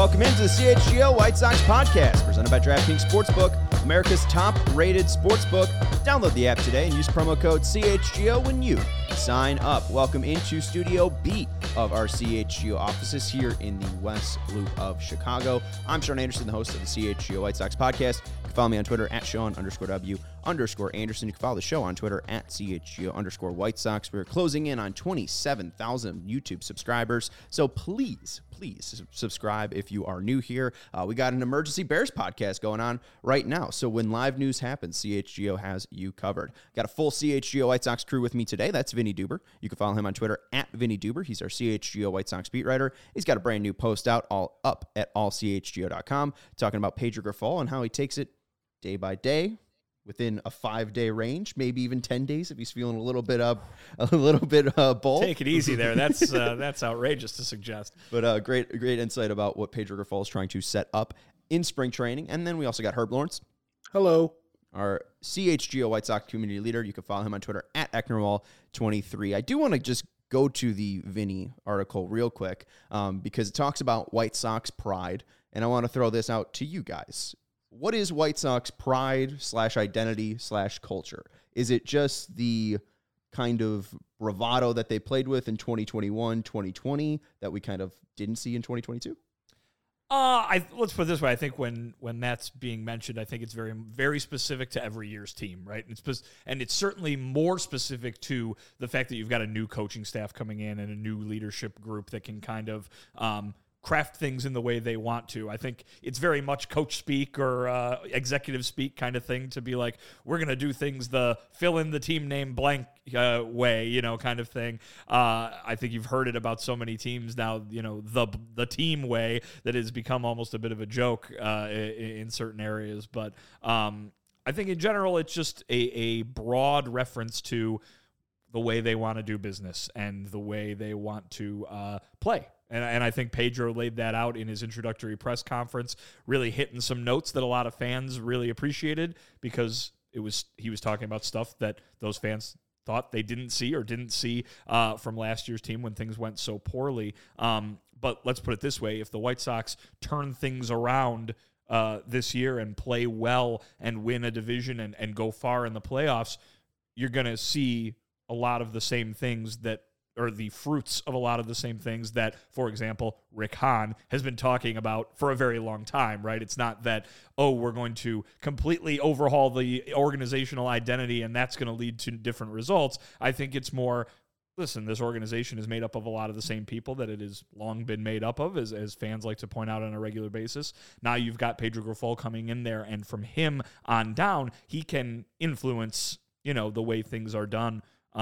Welcome into the CHGO White Sox podcast, presented by DraftKings Sportsbook, America's top-rated sportsbook. Download the app today and use promo code CHGO when you sign up. Welcome into Studio B of our CHGO offices here in the West Loop of Chicago. I'm Sean Anderson, the host of the CHGO White Sox podcast. You can follow me on Twitter at Sean_W_Anderson. You can follow the show on Twitter at CHGO_White Sox. We're closing in on 27,000 YouTube subscribers, so please subscribe if you are new here. We got an emergency Bears podcast going on right now, so when live news happens, CHGO has you covered. Got a full CHGO White Sox crew with me today. That's Vinny Duber. You can follow him on Twitter at Vinny Duber. He's our CHGO White Sox beat writer. He's got a brand new post out all up at allchgo.com talking about Pedro Grifol and how he takes it day by day within a 5-day range, maybe even 10 days if he's feeling a little bit bold. Take it easy there. That's outrageous to suggest. But great insight about what Pedro Grifol is trying to set up in spring training. And then we also got Herb Lawrence. Hello. Our CHGO White Sox community leader. You can follow him on Twitter at Ecknerwall23. I do want to just go to the Vinny article real quick because it talks about White Sox pride. And I want to throw this out to you guys. What is White Sox pride / identity / culture? Is it just the kind of bravado that they played with in 2021, 2020 that we kind of didn't see in 2022? Let's put it this way. I think when that's being mentioned, I think it's very, very specific to every year's team, right? And it's certainly more specific to the fact that you've got a new coaching staff coming in and a new leadership group that can kind of craft things in the way they want to. I think it's very much coach speak or executive speak kind of thing to be like, we're going to do things the fill in the team name blank way, kind of thing. I think you've heard it about so many teams now, the team way that has become almost a bit of a joke in certain areas. But I think in general, it's just a broad reference to the way they want to do business and the way they want to play. And I think Pedro laid that out in his introductory press conference, really hitting some notes that a lot of fans really appreciated because he was talking about stuff that those fans thought they didn't see from last year's team when things went so poorly. But let's put it this way. If the White Sox turn things around this year and play well and win a division and go far in the playoffs, you're going to see a lot of the same things or the fruits of a lot of the same things that, for example, Rick Hahn has been talking about for a very long time, right? It's not that, we're going to completely overhaul the organizational identity and that's going to lead to different results. I think it's more, listen, this organization is made up of a lot of the same people that it has long been made up of, as fans like to point out on a regular basis. Now you've got Pedro Grifol coming in there, and from him on down, he can influence, the way things are done.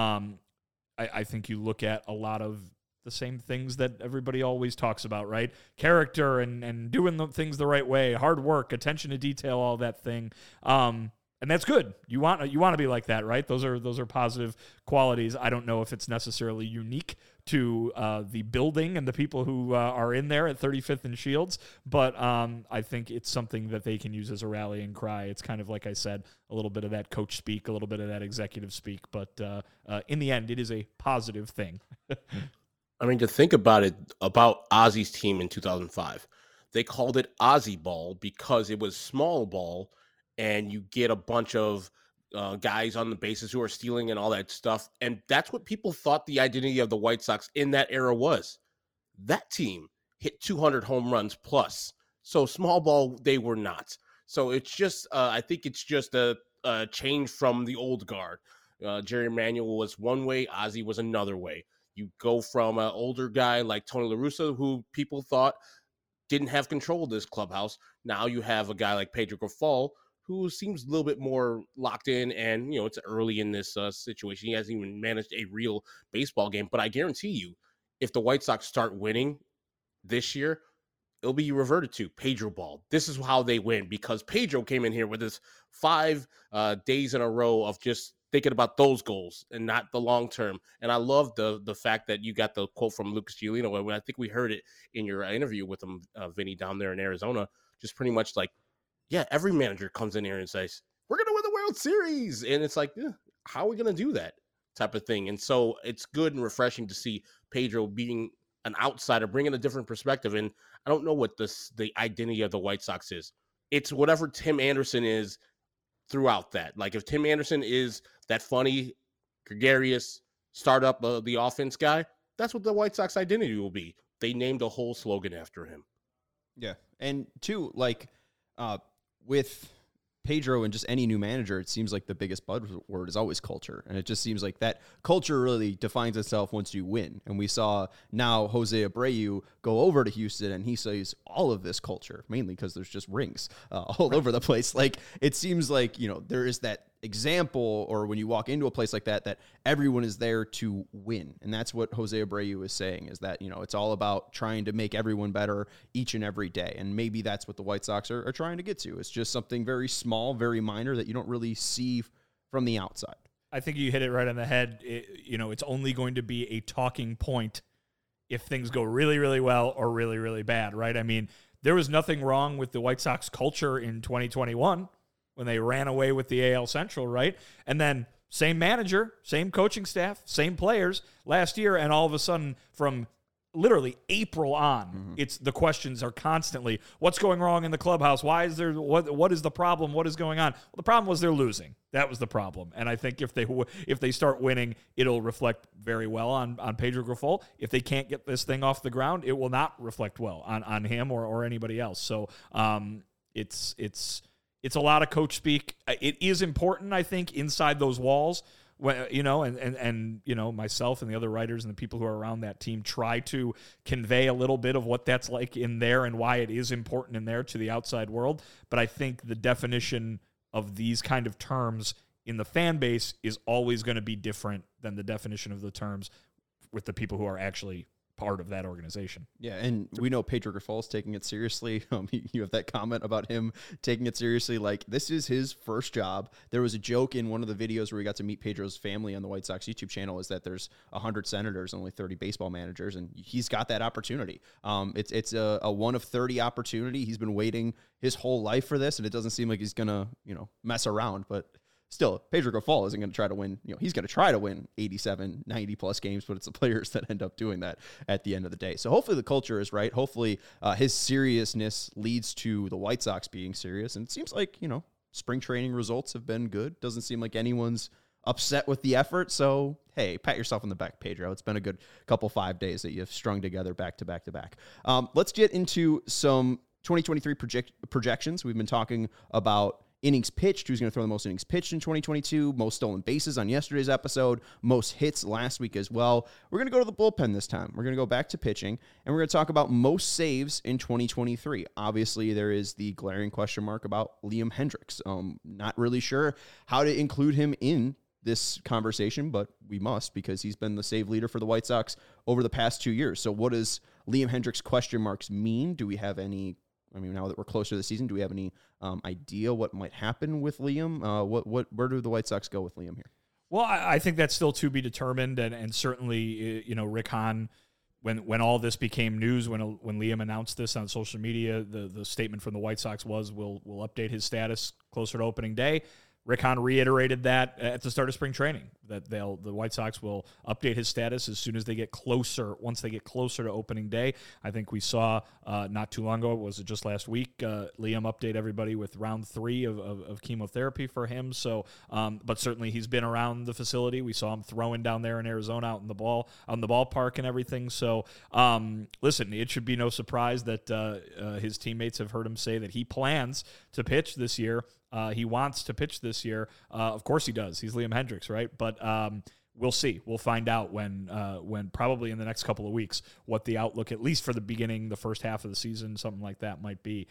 I think you look at a lot of the same things that everybody always talks about, right? Character and doing the things the right way, hard work, attention to detail, all that thing. And that's good. You want to be like that, right? Those are positive qualities. I don't know if it's necessarily unique to the building and the people who are in there at 35th and Shields, but I think it's something that they can use as a rallying cry. It's kind of like I said, a little bit of that coach speak, a little bit of that executive speak, but in the end, it is a positive thing. I mean, to think about it, about Ozzy's team in 2005, they called it Ozzy Ball because it was small ball, and you get a bunch of guys on the bases who are stealing and all that stuff. And that's what people thought the identity of the White Sox in that era was. That team hit 200 home runs plus. So small ball, they were not. So it's just, I think it's just a change from the old guard. Jerry Manuel was one way, Ozzy was another way. You go from an older guy like Tony La Russa, who people thought didn't have control of this clubhouse. Now you have a guy like Pedro Grifol, who seems a little bit more locked in, and, it's early in this situation. He hasn't even managed a real baseball game. But I guarantee you, if the White Sox start winning this year, it'll be reverted to Pedro Ball. This is how they win, because Pedro came in here with his 5 days in a row of just thinking about those goals and not the long term. And I love the fact that you got the quote from Lucas Giolito, and I think we heard it in your interview with him, Vinny, down there in Arizona, just pretty much like, yeah, every manager comes in here and says, we're going to win the World Series. And it's like, how are we going to do that type of thing? And so it's good and refreshing to see Pedro being an outsider, bringing a different perspective. And I don't know what the identity of the White Sox is. It's whatever Tim Anderson is throughout that. Like if Tim Anderson is that funny, gregarious, start up the offense guy, that's what the White Sox identity will be. They named a whole slogan after him. Yeah. And two, like with Pedro and just any new manager, it seems like the biggest buzzword is always culture. And it just seems like that culture really defines itself once you win. And we saw now Jose Abreu go over to Houston and he sees all of this culture, mainly because there's just rings all over the place. Like it seems like, you know, there is that example, or when you walk into a place like that, that everyone is there to win. And that's what Jose Abreu is saying, is that, you know, it's all about trying to make everyone better each and every day. And maybe that's what the White Sox are trying to get to. It's just something very small, very minor that you don't really see from the outside. I think you hit it right on the head. You know, it's only going to be a talking point if things go really, really well or really, really bad, right? I mean, there was nothing wrong with the White Sox culture in 2021 when they ran away with the AL Central, right? And then same manager, same coaching staff, same players last year, and all of a sudden from literally April on, it's the questions are constantly, what's going wrong in the clubhouse? Why is there, what is the problem? What is going on? Well, the problem was they're losing. That was the problem. And I think if they start winning, it'll reflect very well on Pedro Grifol. If they can't get this thing off the ground, it will not reflect well on him or anybody else. So it's a lot of coach speak. It is important, I think, inside those walls. You know, and you know, myself and the other writers and the people who are around that team try to convey a little bit of what that's like in there and why it is important in there to the outside world. But I think the definition of these kind of terms in the fan base is always going to be different than the definition of the terms with the people who are actually part of that organization. Yeah, and we know Pedro Grifol is taking it seriously. You have that comment about him taking it seriously. Like, this is his first job. There was a joke in one of the videos where we got to meet Pedro's family on the White Sox YouTube channel, is that there's 100 senators, only 30 baseball managers, and he's got that opportunity. It's a 1 of 30 opportunity. He's been waiting his whole life for this, and it doesn't seem like he's going to, you know, mess around, but still, Pedro Grifol isn't going to try to win. You know, he's going to try to win 87, 90-plus games, but it's the players that end up doing that at the end of the day. So hopefully the culture is right. Hopefully his seriousness leads to the White Sox being serious. And it seems like, you know, spring training results have been good. Doesn't seem like anyone's upset with the effort. So, hey, pat yourself on the back, Pedro. It's been a good couple 5 days that you've strung together back to back to back. Let's get into some 2023 projections. We've been talking about innings pitched, who's going to throw the most innings pitched in 2022, most stolen bases on yesterday's episode, most hits last week as well. We're going to go to the bullpen this time. We're going to go back to pitching, and we're going to talk about most saves in 2023. Obviously, there is the glaring question mark about Liam Hendriks. Not really sure how to include him in this conversation, but we must, because he's been the save leader for the White Sox over the past 2 years. So what does Liam Hendriks question marks mean? Do we have any, I mean, now that we're closer to the season, do we have any idea what might happen with Liam? Where do the White Sox go with Liam here? Well, I think that's still to be determined, and certainly, you know, Rick Hahn, when all this became news, when Liam announced this on social media, the statement from the White Sox was, we'll update his status closer to opening day. Rick Hahn reiterated that at the start of spring training, that the White Sox will update his status as soon as they get closer, once they get closer to opening day. I think we saw not too long ago, was it just last week, Liam update everybody with round 3 of chemotherapy for him. So, but certainly he's been around the facility. We saw him throwing down there in Arizona out in the ballpark and everything. So, listen, it should be no surprise that his teammates have heard him say that he plans to pitch this year. He wants to pitch this year. Of course he does. He's Liam Hendriks, right? But we'll see. We'll find out when probably in the next couple of weeks what the outlook, at least for the beginning, the first half of the season, something like that might be.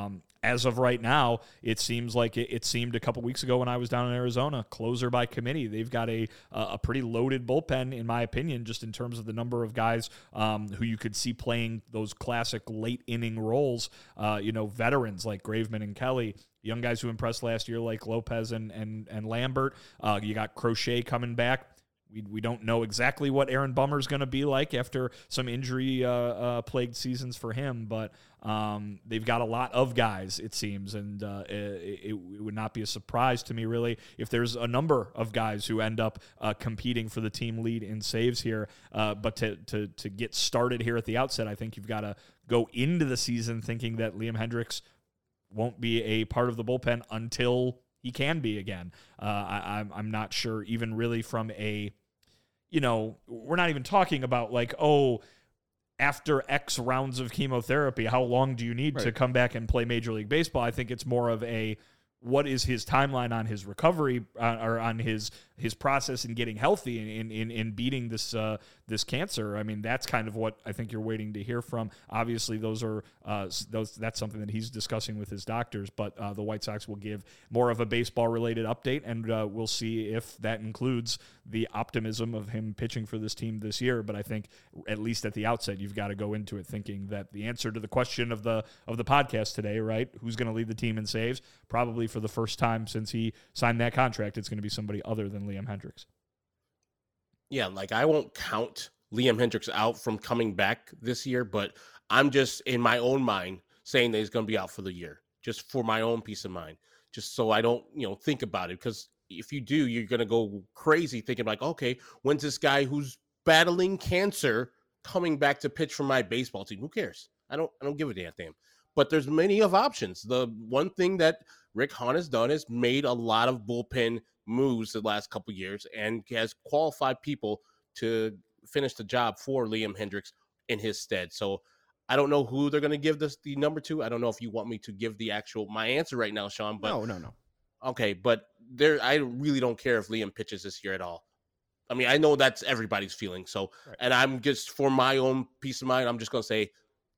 As of right now, it seems like it seemed a couple weeks ago when I was down in Arizona, closer by committee. They've got a pretty loaded bullpen, in my opinion, just in terms of the number of guys who you could see playing those classic late inning roles. Veterans like Graveman and Kelly, young guys who impressed last year like Lopez and Lambert. You got Crochet coming back. We don't know exactly what Aaron Bummer's going to be like after some injury plagued seasons for him, but they've got a lot of guys, it seems, and it would not be a surprise to me, really, if there's a number of guys who end up competing for the team lead in saves here. But to get started here at the outset, I think you've got to go into the season thinking that Liam Hendriks won't be a part of the bullpen until he can be again. I'm not sure, even really from a, we're not even talking about like, after X rounds of chemotherapy, how long do you need to come back and play Major League Baseball? I think it's more of a, what is his timeline on his recovery or on his process in getting healthy in beating this cancer? I mean, that's kind of what I think you're waiting to hear from. Obviously, that's something that he's discussing with his doctors, but the White Sox will give more of a baseball-related update, and we'll see if that includes the optimism of him pitching for this team this year. But I think, at least at the outset, you've got to go into it thinking that the answer to the question of the podcast today, right, who's going to lead the team in saves, probably for the first time since he signed that contract, it's going to be somebody other than Liam Hendriks. Yeah, like I won't count Liam Hendriks out from coming back this year, but I'm just in my own mind saying that he's going to be out for the year, just for my own peace of mind, just so I don't, think about it. Because if you do, you're going to go crazy thinking like, okay, when's this guy who's battling cancer coming back to pitch for my baseball team? Who cares? I don't give a damn. But there's many of options. The one thing that Rick Hahn has done is made a lot of bullpen moves the last couple of years and has qualified people to finish the job for Liam Hendriks in his stead. So I don't know who they're going to give this the number to. I don't know if you want me to give my answer right now, Sean. But No. Okay, but I really don't care if Liam pitches this year at all. I mean, I know that's everybody's feeling. So, right. And I'm just, for my own peace of mind, I'm just going to say,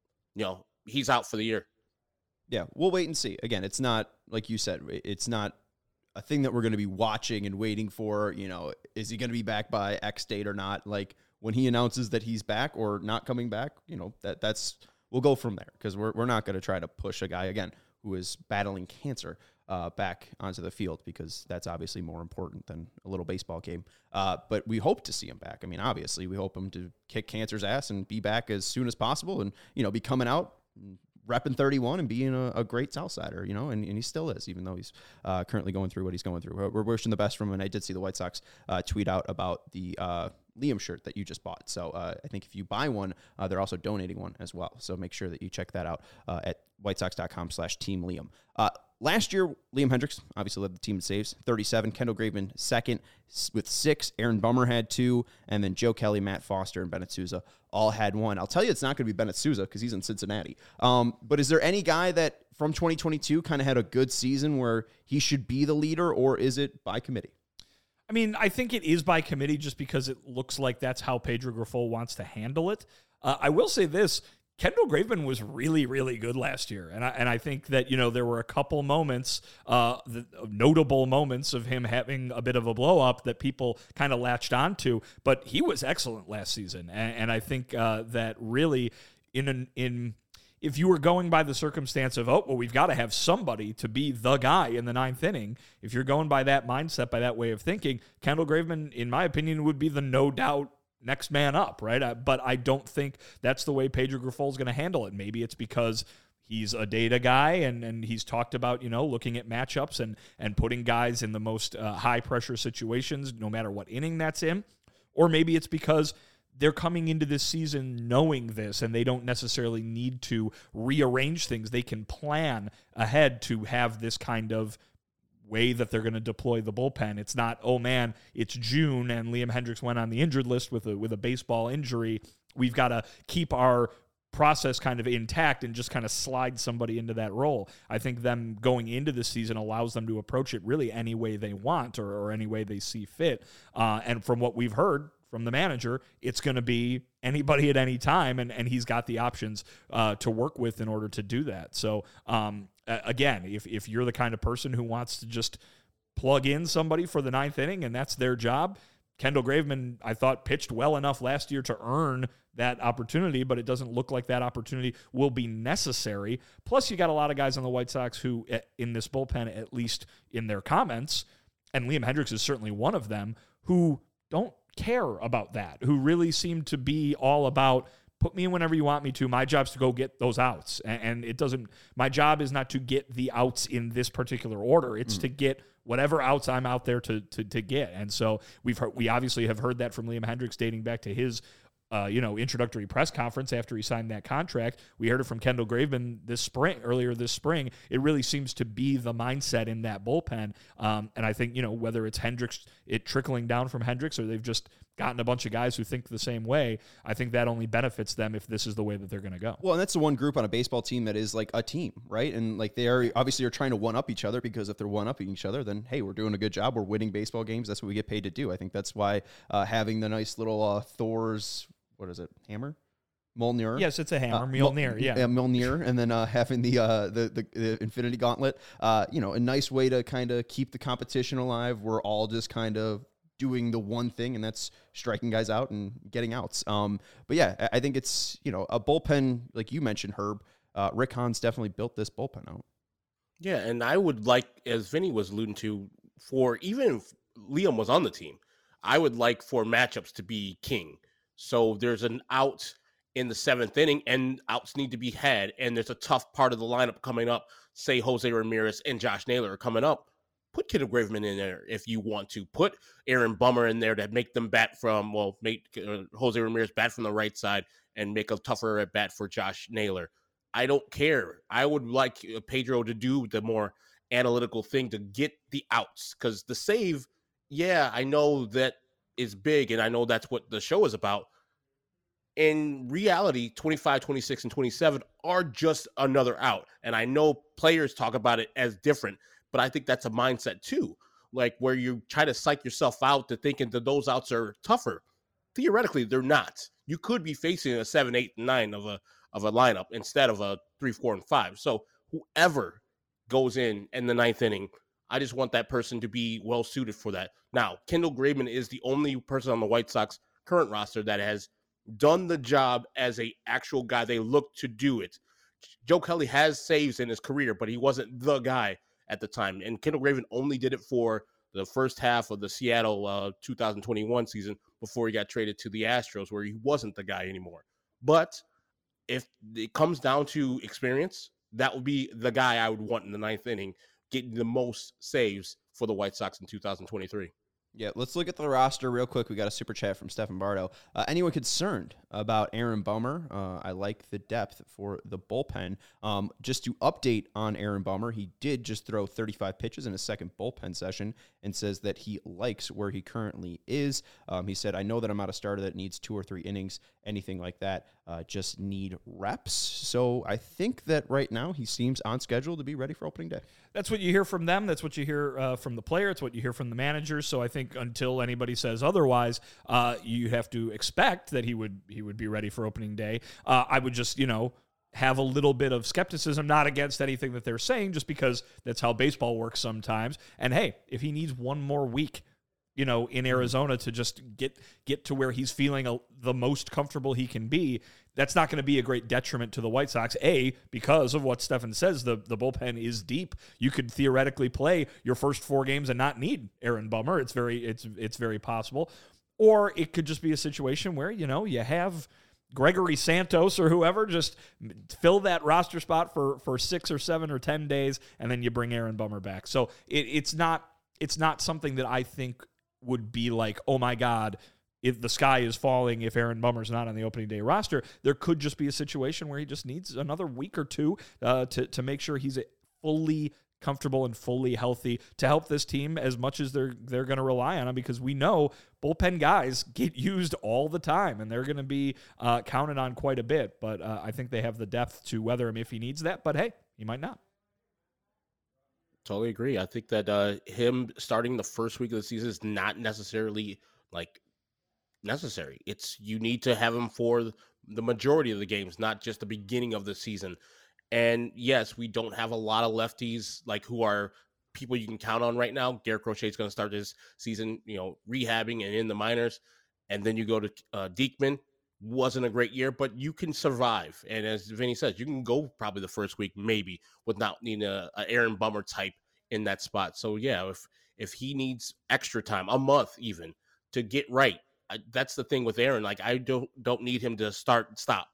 he's out for the year. Yeah, we'll wait and see. Again, it's not, like you said, it's not a thing that we're going to be watching and waiting for. Is he going to be back by X date or not? Like, when he announces that he's back or not coming back, that's we'll go from there, because we're not going to try to push a guy, again, who is battling cancer back onto the field, because that's obviously more important than a little baseball game. But we hope to see him back. I mean, obviously, we hope him to kick cancer's ass and be back as soon as possible and, be coming out, repping 31 and being a great Southsider, and he still is, even though he's currently going through what he's going through. We're wishing the best from him, and I did see the White Sox tweet out about the Liam shirt that you just bought. So I think if you buy one, they're also donating one as well. So make sure that you check that out at whitesox.com/Team Liam. Last year, Liam Hendriks obviously led the team in saves, 37. Kendall Graveman second with 6. Aaron Bummer had 2. And then Joe Kelly, Matt Foster, and Bennett Sousa all had 1. I'll tell you it's not going to be Bennett Sousa because he's in Cincinnati. But is there any guy that from 2022 kind of had a good season where he should be the leader, or is it by committee? I mean, I think it is by committee just because it looks like that's how Pedro Grifol wants to handle it. I will say this. Kendall Graveman was really, really good last year. And I think that, there were a couple moments, notable moments of him having a bit of a blow up that people kind of latched onto, but he was excellent last season. And I think that really if you were going by the circumstance of, we've got to have somebody to be the guy in the 9th inning, if you're going by that mindset, by that way of thinking, Kendall Graveman, in my opinion, would be the no doubt next man up, right? But I don't think that's the way Pedro Grifol is going to handle it. Maybe it's because he's a data guy and he's talked about, looking at matchups and putting guys in the most high-pressure situations, no matter what inning that's in. Or maybe it's because they're coming into this season knowing this, and they don't necessarily need to rearrange things. They can plan ahead to have this kind of way that they're going to deploy the bullpen. It's not, it's June and Liam Hendriks went on the injured list with a baseball injury. We've got to keep our process kind of intact and just kind of slide somebody into that role. I think them going into this season allows them to approach it really any way they want or any way they see fit. And from what we've heard from the manager, it's going to be anybody at any time, and he's got the options to work with in order to do that. So, again, if you're the kind of person who wants to just plug in somebody for the 9th inning and that's their job, Kendall Graveman, I thought, pitched well enough last year to earn that opportunity, but it doesn't look like that opportunity will be necessary. Plus, you got a lot of guys on the White Sox who, in this bullpen, at least in their comments, and Liam Hendriks is certainly one of them, who don't care about that, who really seem to be all about put me in whenever you want me to. My job's to go get those outs. And it doesn't, my job is not to get the outs in this particular order. It's to get whatever outs I'm out there to get. And so we obviously have heard that from Liam Hendriks dating back to his introductory press conference after he signed that contract. We heard it from Kendall Graveman earlier this spring. It really seems to be the mindset in that bullpen. And I think, whether it's Hendriks, it trickling down from Hendriks, or they've just gotten a bunch of guys who think the same way, I think that only benefits them if this is the way that they're going to go. Well, and that's the one group on a baseball team that is like a team, right? And like they are obviously trying to one-up each other, because if they're one-upping each other, then, hey, we're doing a good job. We're winning baseball games. That's what we get paid to do. I think that's why having the nice little Thor's, what is it, hammer? Mjolnir. Yes, it's a hammer. Mjolnir, yeah. Mjolnir, and then having the Infinity Gauntlet. A nice way to kind of keep the competition alive. We're all just kind of doing the one thing, and that's striking guys out and getting outs. But yeah, I think it's, a bullpen, like you mentioned, Herb. Rick Hahn's definitely built this bullpen out. Yeah, and I would like, as Vinny was alluding to, for even if Liam was on the team, I would like for matchups to be king. So there's an out in the 7th inning, and outs need to be had, and there's a tough part of the lineup coming up. Say Jose Ramirez and Josh Naylor are coming up. Put Kendall Graveman in there if you want to. Put Aaron Bummer in there to make them bat make Jose Ramirez bat from the right side and make a tougher at bat for Josh Naylor. I don't care. I would like Pedro to do the more analytical thing to get the outs, because the save, yeah, I know that is big, and I know that's what the show is about. In reality, 25, 26, and 27 are just another out. And I know players talk about it as different, but I think that's a mindset too, like where you try to psych yourself out to thinking that those outs are tougher. Theoretically, they're not. You could be facing a 7, 8, and 9 of a lineup instead of a 3, 4, and 5. So whoever goes in the 9th inning, I just want that person to be well suited for that. Now, Kendall Graveman is the only person on the White Sox current roster that has done the job as a actual guy. They look to do it. Joe Kelly has saves in his career, but he wasn't the guy at the time. And Kendall Graveman only did it for the first half of the Seattle 2021 season before he got traded to the Astros, where he wasn't the guy anymore. But if it comes down to experience, that would be the guy I would want in the 9th inning, getting the most saves for the White Sox in 2023. Yeah, let's look at the roster real quick. We got a super chat from Stephen Bardo. Anyone concerned about Aaron Bummer? I like the depth for the bullpen. Just to update on Aaron Bummer, he did just throw 35 pitches in his second bullpen session and says that he likes where he currently is. He said, I know that I'm not a starter that needs 2 or 3 innings, anything like that. Just need reps. So I think that right now he seems on schedule to be ready for opening day. That's what you hear from them. That's what you hear from the player. It's what you hear from the managers. So I think until anybody says otherwise, you have to expect that he would be ready for opening day. I would just, have a little bit of skepticism, not against anything that they're saying, just because that's how baseball works sometimes. And hey, if he needs one more week, in Arizona to just get to where he's feeling the most comfortable he can be, that's not going to be a great detriment to the White Sox. Because of what Stefan says, the bullpen is deep. You could theoretically play your first 4 games and not need Aaron Bummer. It's very possible. Or it could just be a situation where, you have Gregory Santos or whoever just fill that roster spot for 6 or 7 or 10 days, and then you bring Aaron Bummer back. So it's not something that I think would be like, oh my God, if the sky is falling if Aaron Bummer's not on the opening day roster. There could just be a situation where he just needs another week or 2 to make sure he's fully comfortable and fully healthy to help this team as much as they're going to rely on him, because we know bullpen guys get used all the time and they're going to be counted on quite a bit. But I think they have the depth to weather him if he needs that. But hey, he might not. Totally agree. I think that him starting the first week of the season is not necessarily necessary. You need to have him for the majority of the games, not just the beginning of the season. And yes, we don't have a lot of lefties who are people you can count on right now. Garrett Crochet is going to start this season, rehabbing and in the minors. And then you go to Diekman. Wasn't a great year, but you can survive. And as Vinny says, you can go probably the first week maybe without needing a Aaron Bummer type in that spot. So yeah, if he needs extra time, a month even, to get right, That's the thing with Aaron. Like, I don't need him to start and stop.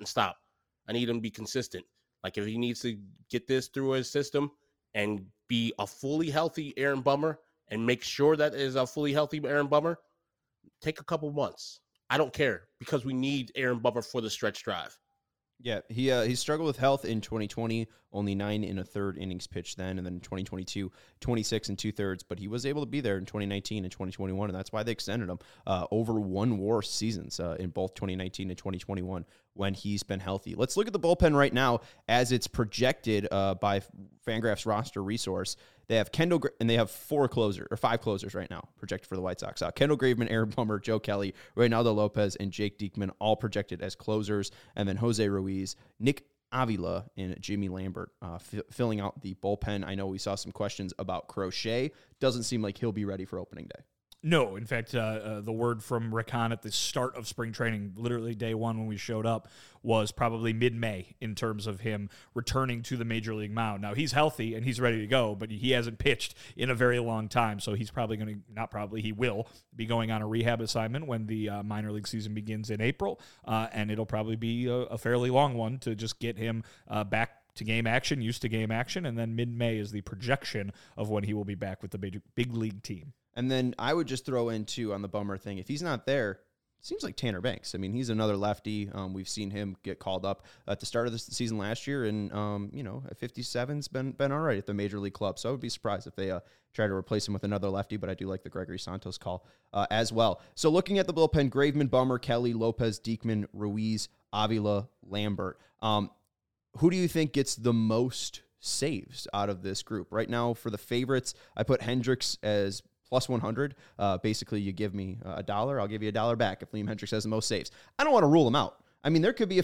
I need him to be consistent. Like, if he needs to get this through his system and be a fully healthy Aaron Bummer and make sure that is a fully healthy Aaron Bummer, take a couple months. I don't care, because we need Aaron Bummer for the stretch drive. Yeah, he struggled with health in 2020, only 9 1/3 innings pitched then, and then in 2022, 26 2/3, but he was able to be there in 2019 and 2021, and that's why they extended him over one WAR seasons in both 2019 and 2021 when he's been healthy. Let's look at the bullpen right now as it's projected by Fangraphs roster resource. They have Kendall, and they have 5 closers right now projected for the White Sox. Kendall Graveman, Aaron Bummer, Joe Kelly, Reynaldo Lopez, and Jake Diekman all projected as closers. And then Jose Ruiz, Nick Avila, and Jimmy Lambert filling out the bullpen. I know we saw some questions about Crochet. Doesn't seem like he'll be ready for opening day. No, in fact, the word from Rick Hahn at the start of spring training, literally day one when we showed up, was probably mid-May in terms of him returning to the major league mound. Now, he's healthy and he's ready to go, but he hasn't pitched in a very long time, so he's probably going to, he will be going on a rehab assignment when the minor league season begins in April, and it'll probably be a fairly long one to just get him back to game action, used to game action, and then mid-May is the projection of when he will be back with the big league team. And then I would just throw in, too, on the Bummer thing, if he's not there, it seems like Tanner Banks. I mean, he's another lefty. We've seen him get called up at the start of the season last year, and, at 57's been all right at the major league club. So I would be surprised if they try to replace him with another lefty, but I do like the Gregory Santos call as well. So looking at the bullpen, Graveman, Bummer, Kelly, Lopez, Diekman, Ruiz, Avila, Lambert. Who do you think gets the most saves out of this group? Right now, for the favorites, I put Hendricks as plus 100. Basically, you give me $1, I'll give you $1 back if Liam Hendricks has the most saves. I don't want to rule him out. I mean, there could be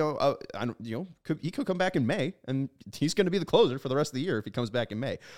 he could come back in May, and he's going to be the closer for the rest of the year if he comes back in May.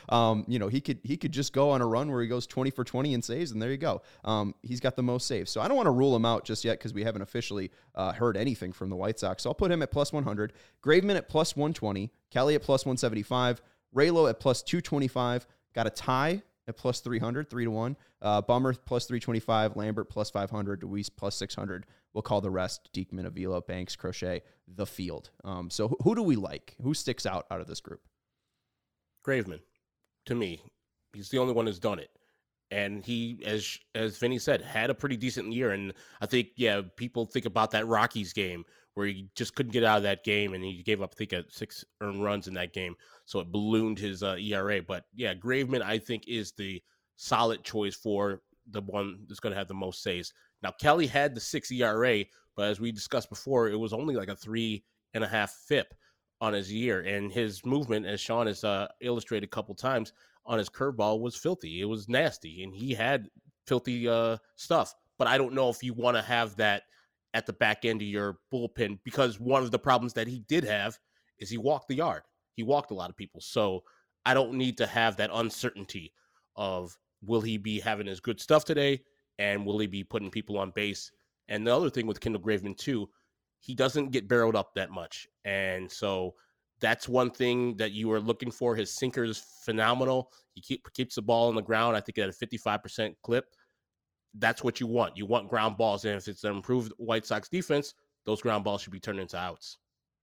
He could just go on a run where he goes 20 for 20 in saves, and there you go. He's got the most saves, so I don't want to rule him out just yet because we haven't officially heard anything from the White Sox. So I'll put him at plus 100, Graveman at plus 120, Kelly at plus 175, Raylo at plus 225. Got a tie at plus 300, 3-1. Bummer plus 325, Lambert plus 500, Ruiz plus 600. We'll call the rest Diekman, Avila, Banks, Crochet, the field. So who do we like? Who sticks out of this group? Graveman, to me, he's the only one who's done it. And he, as Vinny said, had a pretty decent year. And I think, people think about that Rockies game where he just couldn't get out of that game, and he gave up, I think, 6 earned runs in that game. So it ballooned his ERA. But, Graveman, I think, is the solid choice for the one that's going to have the most saves. Now, Kelly had the 6 ERA, but as we discussed before, it was only like a 3.5 FIP on his year. And his movement, as Sean has illustrated a couple times, on his curveball was filthy. It was nasty, and he had filthy stuff. But I don't know if you want to have that at the back end of your bullpen, because one of the problems that he did have is he walked the yard. He walked a lot of people. So I don't need to have that uncertainty of, will he be having his good stuff today, and will he be putting people on base? And the other thing with Kendall Graveman, too, he doesn't get barreled up that much. And so that's one thing that you are looking for. His sinker is phenomenal. He keeps the ball on the ground, I think, at a 55% clip. That's what you want. You want ground balls. And if it's an improved White Sox defense, those ground balls should be turned into outs.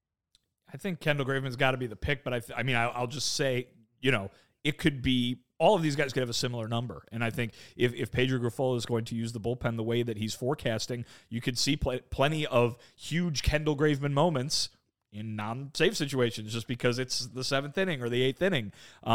I think Kendall Graveman's got to be the pick, but I'll just say, it could be, all of these guys could have a similar number. And I think if Pedro Grifol is going to use the bullpen the way that he's forecasting, you could see plenty of huge Kendall Graveman moments in non-save situations, just because it's the 7th inning or the 8th inning.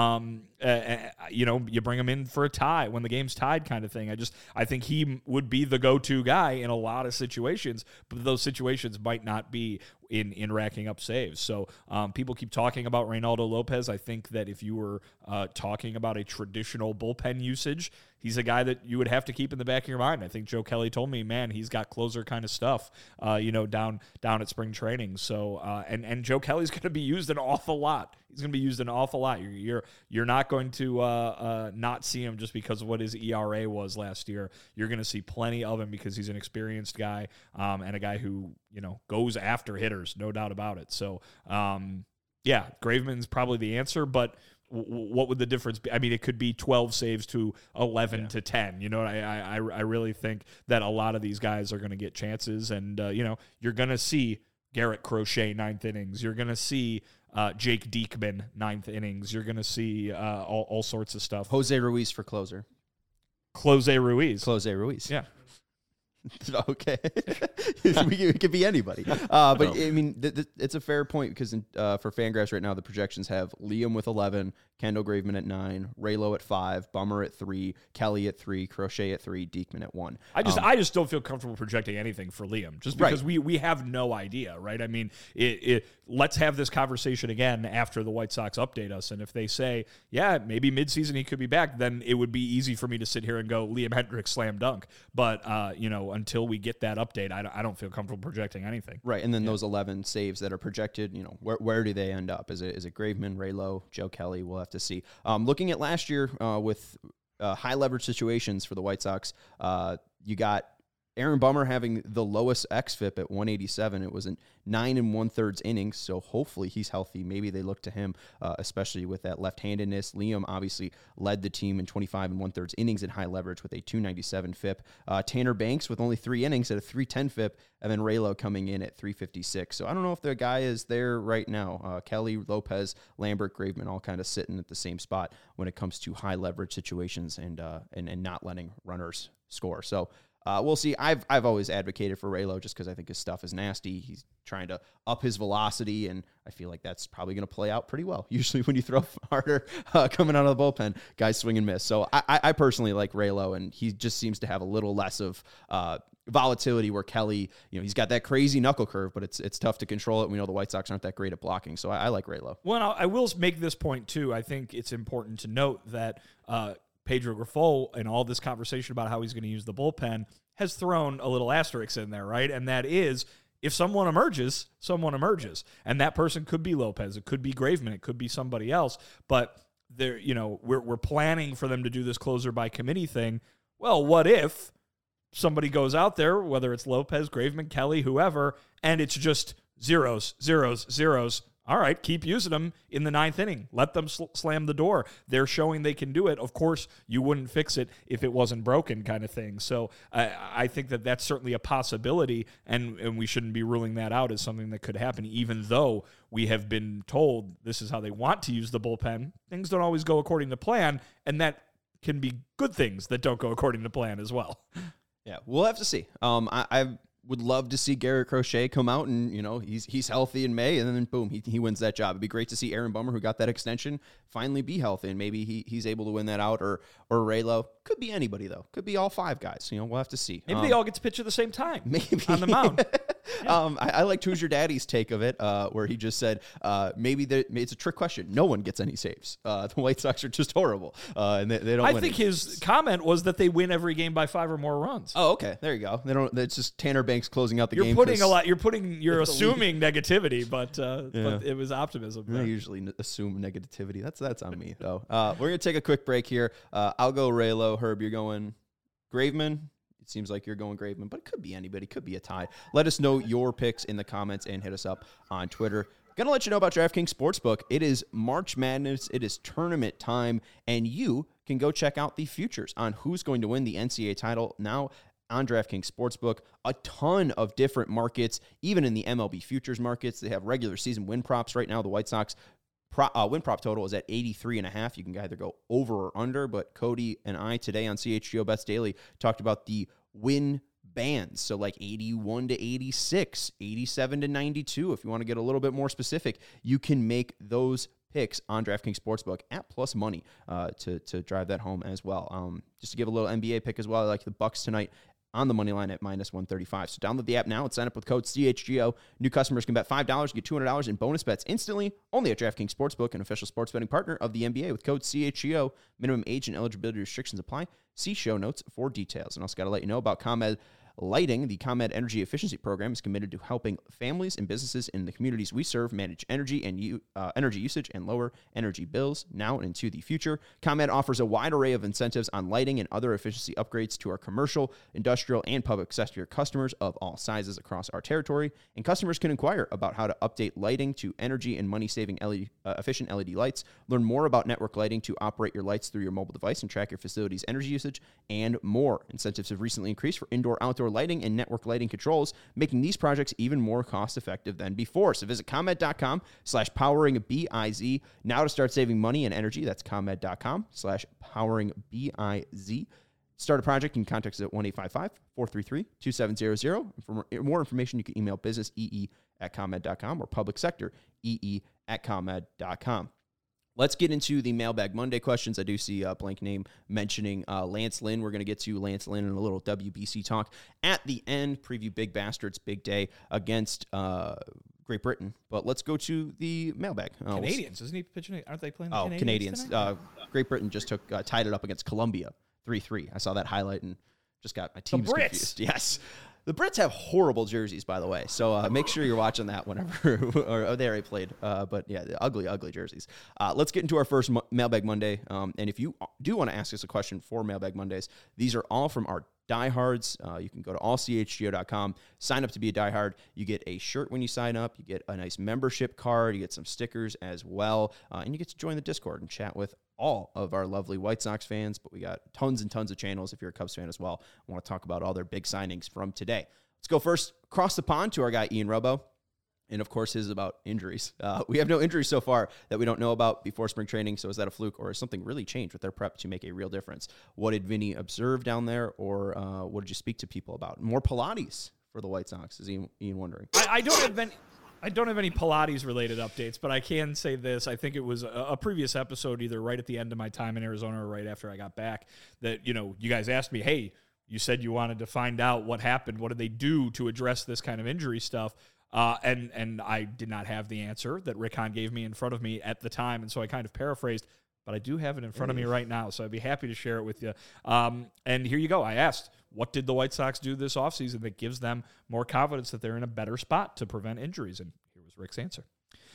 You bring him in for a tie when the game's tied, kind of thing. I think he would be the go-to guy in a lot of situations, but those situations might not be in racking up saves. So people keep talking about Reynaldo Lopez. I think that if you were talking about a traditional bullpen usage, he's a guy that you would have to keep in the back of your mind. I think Joe Kelly told me, man, he's got closer kind of stuff, down at spring training. So, and Joe Kelly's going to be used an awful lot. He's going to be used an awful lot. You're not going to not see him just because of what his ERA was last year. You're going to see plenty of him because he's an experienced guy and a guy who goes after hitters, no doubt about it. So, Graveman's probably the answer, but what would the difference be? I mean, it could be 12 saves to 11 to 10. You know, I really think that a lot of these guys are going to get chances, and you're going to see Garrett Crochet 9th innings. You're going to see Jake Diekman 9th innings. You're going to see all sorts of stuff. Jose Ruiz for closer. Close Ruiz. Yeah. Okay. Yeah. It could be anybody. But I mean, it's a fair point because for Fangraphs right now, the projections have Liam with 11, Kendall Graveman at 9, Raylo at 5, Bummer at 3, Kelly at 3, Crochet at 3, Diekman at 1. I just don't feel comfortable projecting anything for Liam just because we have no idea, right? I mean, let's have this conversation again after the White Sox update us. And if they say, yeah, maybe midseason he could be back, then it would be easy for me to sit here and go Liam Hendriks slam dunk. But, until we get that update, I don't feel comfortable projecting anything. Right, and then those 11 saves that are projected, where do they end up? Is it Graveman, Raylo, Joe Kelly? We'll have to see. Looking at last year with high leverage situations for the White Sox, you got Aaron Bummer having the lowest xFIP at 187. It was a 9 1/3 innings, so hopefully he's healthy. Maybe they look to him, especially with that left-handedness. Liam obviously led the team in 25 1/3 innings in high leverage with a 297 FIP. Tanner Banks with only 3 innings at a 310 FIP, and then Raylo coming in at 356. So I don't know if the guy is there right now. Kelly, Lopez, Lambert, Graveman all kind of sitting at the same spot when it comes to high leverage situations and not letting runners score. So we'll see. I've always advocated for Raylo just because I think his stuff is nasty. He's trying to up his velocity, and I feel like that's probably going to play out pretty well. Usually when you throw harder coming out of the bullpen, guys swing and miss. So I personally like Raylo, and he just seems to have a little less of volatility where Kelly, he's got that crazy knuckle curve, but it's tough to control it. We know the White Sox aren't that great at blocking, so I like Raylo. Well, I will make this point, too. I think it's important to note that Pedro Grifol and all this conversation about how he's going to use the bullpen has thrown a little asterisk in there, right? And that is, if someone emerges, and that person could be Lopez, it could be Graveman, it could be somebody else, but they're, we're planning for them to do this closer by committee thing. Well, what if somebody goes out there, whether it's Lopez, Graveman, Kelly, whoever, and it's just zeros? All right, keep using them in the 9th inning. Let them slam the door. They're showing they can do it. Of course, you wouldn't fix it if it wasn't broken, kind of thing. So I think that that's certainly a possibility, and we shouldn't be ruling that out as something that could happen, even though we have been told this is how they want to use the bullpen. Things don't always go according to plan, and that can be good things that don't go according to plan as well. Yeah, we'll have to see. I would love to see Garrett Crochet come out and, he's healthy in May, and then boom, he wins that job. It'd be great to see Aaron Bummer, who got that extension, finally be healthy, and maybe he's able to win that out, or Raylo. Could be anybody, though. Could be all 5 guys. We'll have to see. Maybe they all get to pitch at the same time. Maybe. On the mound. Yeah. I liked Who's Your Daddy's take of it, where he just said, maybe it's a trick question. No one gets any saves. The White Sox are just horrible, and they don't win. I think his comment was that they win every game by 5 or more runs. Oh, okay. There you go. They don't. It's just Tanner Banks closing out the game. You're assuming negativity, but it was optimism. I usually assume negativity. That's on me, though. We're going to take a quick break here. I'll go Raylo. Herb, you're going Graveman. It seems like you're going Graveman, but it could be anybody. It could be a tie. Let us know your picks in the comments and hit us up on Twitter. Going to let you know about DraftKings Sportsbook. It is March Madness. It is tournament time, and you can go check out the futures on who's going to win the NCAA title now on DraftKings Sportsbook. A ton of different markets, even in the MLB futures markets. They have regular season win props right now. The White Sox win prop total is at 83.5. You can either go over or under, but Cody and I today on CHGO Bets Daily talked about the win bands. So like 81 to 86, 87 to 92. If you want to get a little bit more specific, you can make those picks on DraftKings Sportsbook at plus money to drive that home as well. Just to give a little NBA pick as well, I like the Bucks tonight on the money line at minus 135. So download the app now and sign up with code CHGO. New customers can bet $5, get $200 in bonus bets instantly, only at DraftKings Sportsbook, an official sports betting partner of the NBA with code CHGO. Minimum age and eligibility restrictions apply. See show notes for details. And also got to let you know about ComEd Lighting, the ComEd Energy Efficiency Program, is committed to helping families and businesses in the communities we serve manage energy and energy usage and lower energy bills now and into the future. ComEd offers a wide array of incentives on lighting and other efficiency upgrades to our commercial, industrial, and public sector customers of all sizes across our territory, and customers can inquire about how to update lighting to energy and money-saving efficient LED lights. Learn more about network lighting to operate your lights through your mobile device and track your facility's energy usage, and more. Incentives have recently increased for indoor-outdoor lighting and network lighting controls, making these projects even more cost-effective than before. So visit ComEd.com/poweringBIZ now to start saving money and energy. That's ComEd.com/poweringBIZ. Start a project, you can contact us at 1-855-433-2700. For more information, you can email businessee@comed.com or publicsectoree@comed.com. Let's get into the Mailbag Monday questions. I do see a blank name mentioning Lance Lynn. We're going to get to Lance Lynn and a little WBC talk at the end. Preview Big Bastards, big day against Great Britain. But let's go to the mailbag. Canadians, isn't he pitching? Aren't they playing the Canadians? Great Britain just tied it up against Colombia 3-3. I saw that highlight and just got my teams confused. Yes. The Brits have horrible jerseys, by the way, so make sure you're watching that whenever or they already played. But yeah, the ugly jerseys. Let's get into our first Mailbag Monday. And if you do want to ask us a question for Mailbag Mondays, these are all from our diehards. You can go to allchgo.com, sign up to be a diehard. You get a shirt when you sign up. You get a nice membership card. You get some stickers as well. And you get to join the Discord and chat with all of our lovely White Sox fans, but we got tons and tons of channels if you're a Cubs fan as well. I want to talk about all their big signings from today. Let's go first across the pond to our guy Ian Robo, and of course his is about injuries. We have no injuries so far that we don't know about before spring training, so is that a fluke or has something really changed with their prep to make a real difference? What did Vinny observe down there, or what did you speak to people about? More Pilates for the White Sox, is Ian wondering? I don't have any Pilates-related updates, but I can say this. I think it was a previous episode, either right at the end of my time in Arizona or right after I got back, that, you guys asked me, hey, you said you wanted to find out what happened. What did they do to address this kind of injury stuff? And I did not have the answer that Rick Hahn gave me in front of me at the time, and so I kind of paraphrased, but I do have it in front of me right now, so I'd be happy to share it with you. And here you go. I asked, what did the White Sox do this offseason that gives them more confidence that they're in a better spot to prevent injuries? And here was Rick's answer.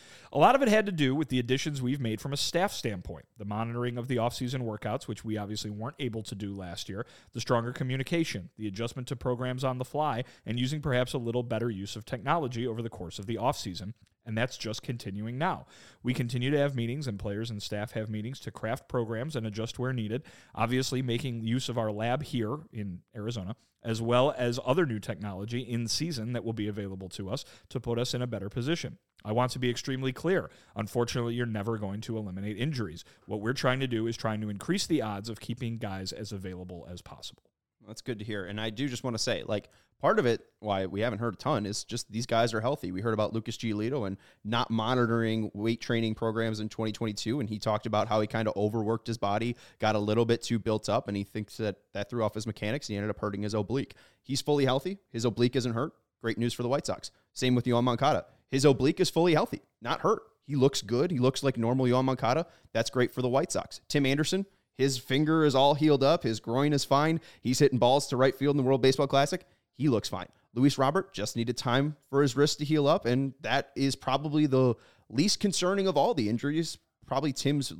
A lot of it had to do with the additions we've made from a staff standpoint, the monitoring of the offseason workouts, which we obviously weren't able to do last year, the stronger communication, the adjustment to programs on the fly, and using perhaps a little better use of technology over the course of the offseason. And that's just continuing now. We continue to have meetings, and players and staff have meetings to craft programs and adjust where needed, obviously making use of our lab here in Arizona, as well as other new technology in season that will be available to us to put us in a better position. I want to be extremely clear. Unfortunately, you're never going to eliminate injuries. What we're trying to do is trying to increase the odds of keeping guys as available as possible. That's good to hear. And I do just want to say, part of it, why we haven't heard a ton, is just these guys are healthy. We heard about Lucas Giolito and not monitoring weight training programs in 2022, and he talked about how he kind of overworked his body, got a little bit too built up, and he thinks that threw off his mechanics, and he ended up hurting his oblique. He's fully healthy. His oblique isn't hurt. Great news for the White Sox. Same with Yoan Moncada. His oblique is fully healthy, not hurt. He looks good. He looks like normal Yoan Moncada. That's great for the White Sox. Tim Anderson, his finger is all healed up. His groin is fine. He's hitting balls to right field in the World Baseball Classic. He looks fine. Luis Robert just needed time for his wrist to heal up, and that is probably the least concerning of all the injuries. Probably Tim's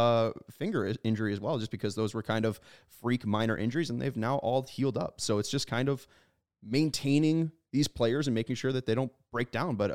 finger injury as well, just because those were kind of freak minor injuries, and they've now all healed up. So it's just kind of maintaining these players and making sure that they don't break down. But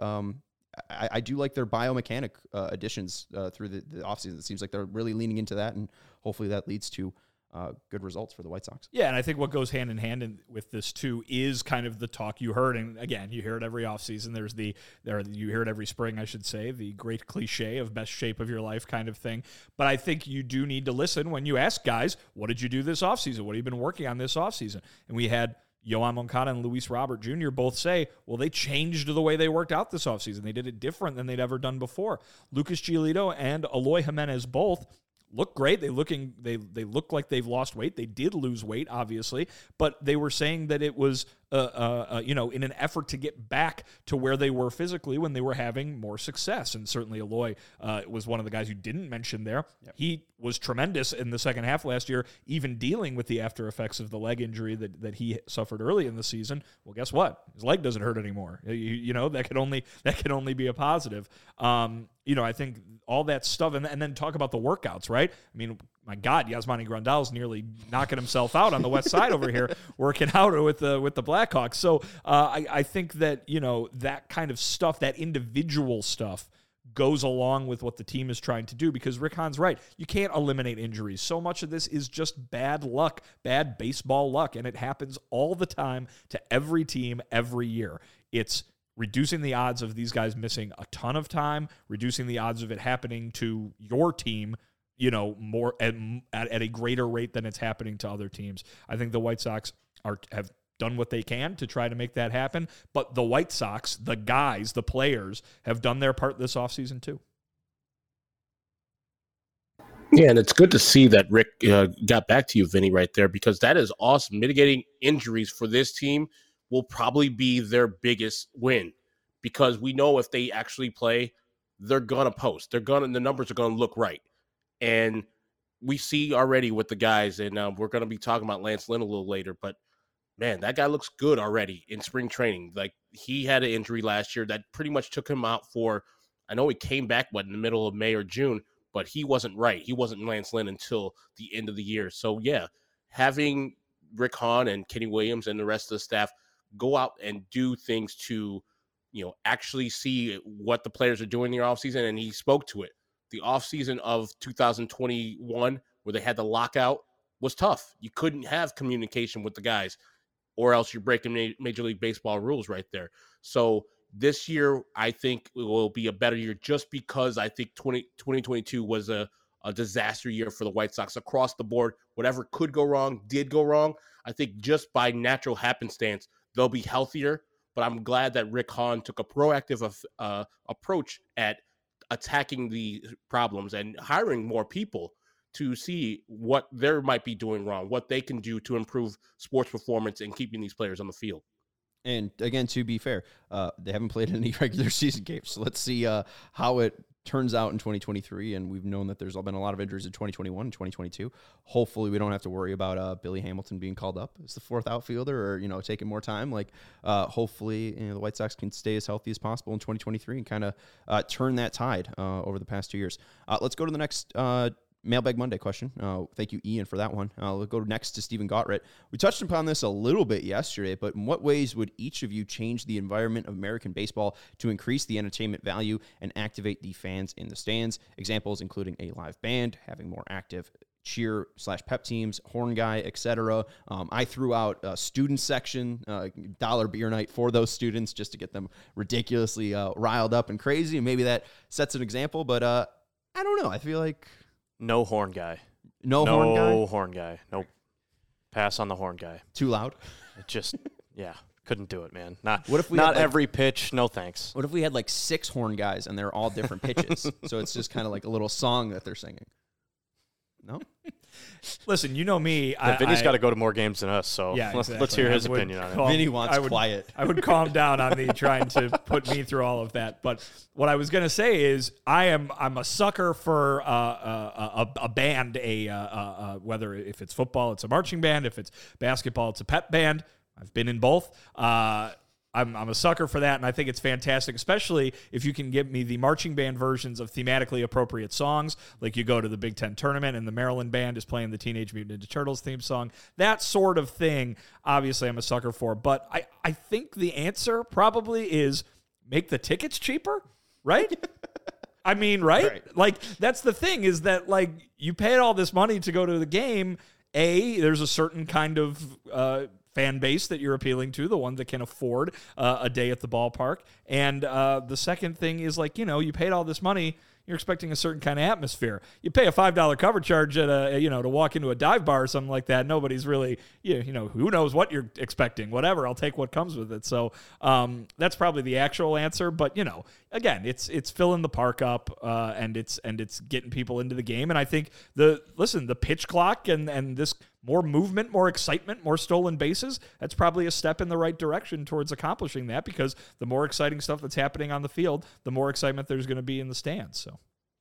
I do like their biomechanic additions through the offseason. It seems like they're really leaning into that, and hopefully that leads to good results for the White Sox. Yeah, and I think what goes hand in hand with this too is kind of the talk you heard, and again, you hear it every offseason. You hear it every spring, I should say, the great cliche of best shape of your life kind of thing. But I think you do need to listen when you ask guys, what did you do this offseason? What have you been working on this offseason? And we had Yoan Moncada and Luis Robert Jr. both say, well, they changed the way they worked out this offseason. They did it different than they'd ever done before. Lucas Giolito and Eloy Jimenez both look great. They look like they've lost weight. They did lose weight, obviously, but they were saying that it was in an effort to get back to where they were physically when they were having more success. And certainly Eloy was one of the guys you didn't mention there. Yep. He was tremendous in the second half last year, even dealing with the after effects of the leg injury that he suffered early in the season. Well, guess what? His leg doesn't hurt anymore. That could only be a positive. I think all that stuff, and then talk about the workouts, right? I mean, my God, Yasmani Grandal's nearly knocking himself out on the west side over here, working out with the Blackhawks. So I think that, that kind of stuff, that individual stuff, goes along with what the team is trying to do, because Rick Hahn's right. You can't eliminate injuries. So much of this is just bad luck, bad baseball luck, and it happens all the time to every team every year. It's reducing the odds of these guys missing a ton of time, reducing the odds of it happening to your team, more at a greater rate than it's happening to other teams. I think the White Sox have done what they can to try to make that happen, but the White Sox, the guys, the players, have done their part this offseason too. Yeah, and it's good to see that Rick got back to you, Vinny, right there, because that is awesome. Mitigating injuries for this team will probably be their biggest win, because we know if they actually play, they're going to post. The numbers are going to look right. And we see already with the guys, and we're going to be talking about Lance Lynn a little later, but man, that guy looks good already in spring training. Like, he had an injury last year that pretty much took him out for, I know he came back, in the middle of May or June, but he wasn't right. He wasn't Lance Lynn until the end of the year. So, yeah, having Rick Hahn and Kenny Williams and the rest of the staff go out and do things to, actually see what the players are doing in the offseason, and he spoke to it. The offseason of 2021, where they had the lockout, was tough. You couldn't have communication with the guys, or else you're breaking Major League Baseball rules right there. So this year, I think it will be a better year, just because I think 2022 was a disaster year for the White Sox across the board. Whatever could go wrong did go wrong. I think just by natural happenstance, they'll be healthier. But I'm glad that Rick Hahn took a proactive approach at attacking the problems and hiring more people to see what they might be doing wrong, what they can do to improve sports performance and keeping these players on the field. And again, to be fair, they haven't played any regular season games. So let's see how it turns out in 2023. And we've known that there's been a lot of injuries in 2021 and 2022. Hopefully we don't have to worry about Billy Hamilton being called up as the fourth outfielder, or, taking more time. Hopefully, the White Sox can stay as healthy as possible in 2023 and kind of turn that tide over the past 2 years. Let's go to the next Mailbag Monday question. Thank you, Ian, for that one. We'll go next to Stephen Gottritt. We touched upon this a little bit yesterday, but in what ways would each of you change the environment of American baseball to increase the entertainment value and activate the fans in the stands? Examples including a live band, having more active cheer/pep teams, horn guy, etc. I threw out a student section, dollar beer night for those students, just to get them ridiculously riled up and crazy. And maybe that sets an example, but I don't know. I feel like no horn guy. No horn guy? No horn guy. Nope. Pass on the horn guy. Too loud? It just, couldn't do it, man. Not every pitch, no thanks. What if we had 6 horn guys and they're all different pitches? So it's just kind of like a little song that they're singing. No? Listen, you know me. Vinny's got to go to more games than us, so let's hear his opinion on it. Vinny wants quiet. I would calm down on me trying to put me through all of that. But what I was going to say is I'm a sucker for a band, whether if it's football, it's a marching band. If it's basketball, it's a pep band. I've been in both. I'm a sucker for that, and I think it's fantastic, especially if you can give me the marching band versions of thematically appropriate songs, like you go to the Big Ten tournament and the Maryland band is playing the Teenage Mutant Ninja Turtles theme song. That sort of thing, obviously, I'm a sucker for. But I think the answer probably is make the tickets cheaper, right? I mean, right? That's the thing, is that, you paid all this money to go to the game. There's a certain kind of fan base that you're appealing to, the one that can afford a day at the ballpark. And the second thing is, you paid all this money, you're expecting a certain kind of atmosphere. You pay a $5 cover charge at to walk into a dive bar or something like that. Nobody's really, who knows what you're expecting. Whatever, I'll take what comes with it. So that's probably the actual answer. But again, it's filling the park up, and it's getting people into the game. And I think the pitch clock and this more movement, more excitement, more stolen bases, that's probably a step in the right direction towards accomplishing that, because the more exciting stuff that's happening on the field, the more excitement there's going to be in the stands. So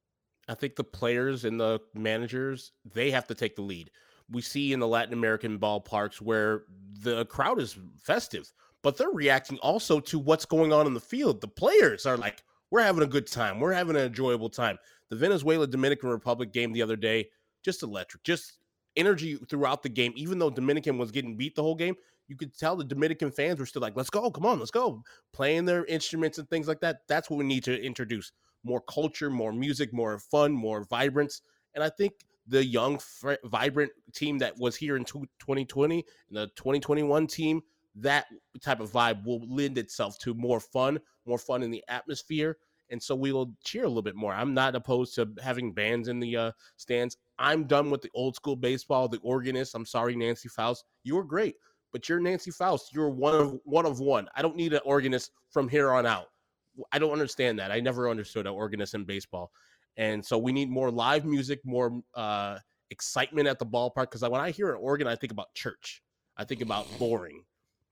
I think the players and the managers, they have to take the lead. We see in the Latin American ballparks where the crowd is festive, but they're reacting also to what's going on in the field. The players are like, we're having a good time. We're having an enjoyable time. The Venezuela-Dominican Republic game the other day, just electric, just energy throughout the game. Even though Dominican was getting beat the whole game, you could tell the Dominican fans were still like, let's go, come on, let's go. Playing their instruments and things like that. That's what we need to introduce. More culture, more music, more fun, more vibrance. And I think the young, vibrant team that was here in 2020 and the 2021 team, that type of vibe will lend itself to more fun in the atmosphere. And so we will cheer a little bit more. I'm not opposed to having bands in the stands. I'm done with the old school baseball, the organist. I'm sorry, Nancy Faust. You were great, but you're Nancy Faust. You're one of one. I don't need an organist from here on out. I don't understand that. I never understood an organist in baseball. And so we need more live music, more excitement at the ballpark. Because when I hear an organ, I think about church. I think about boring.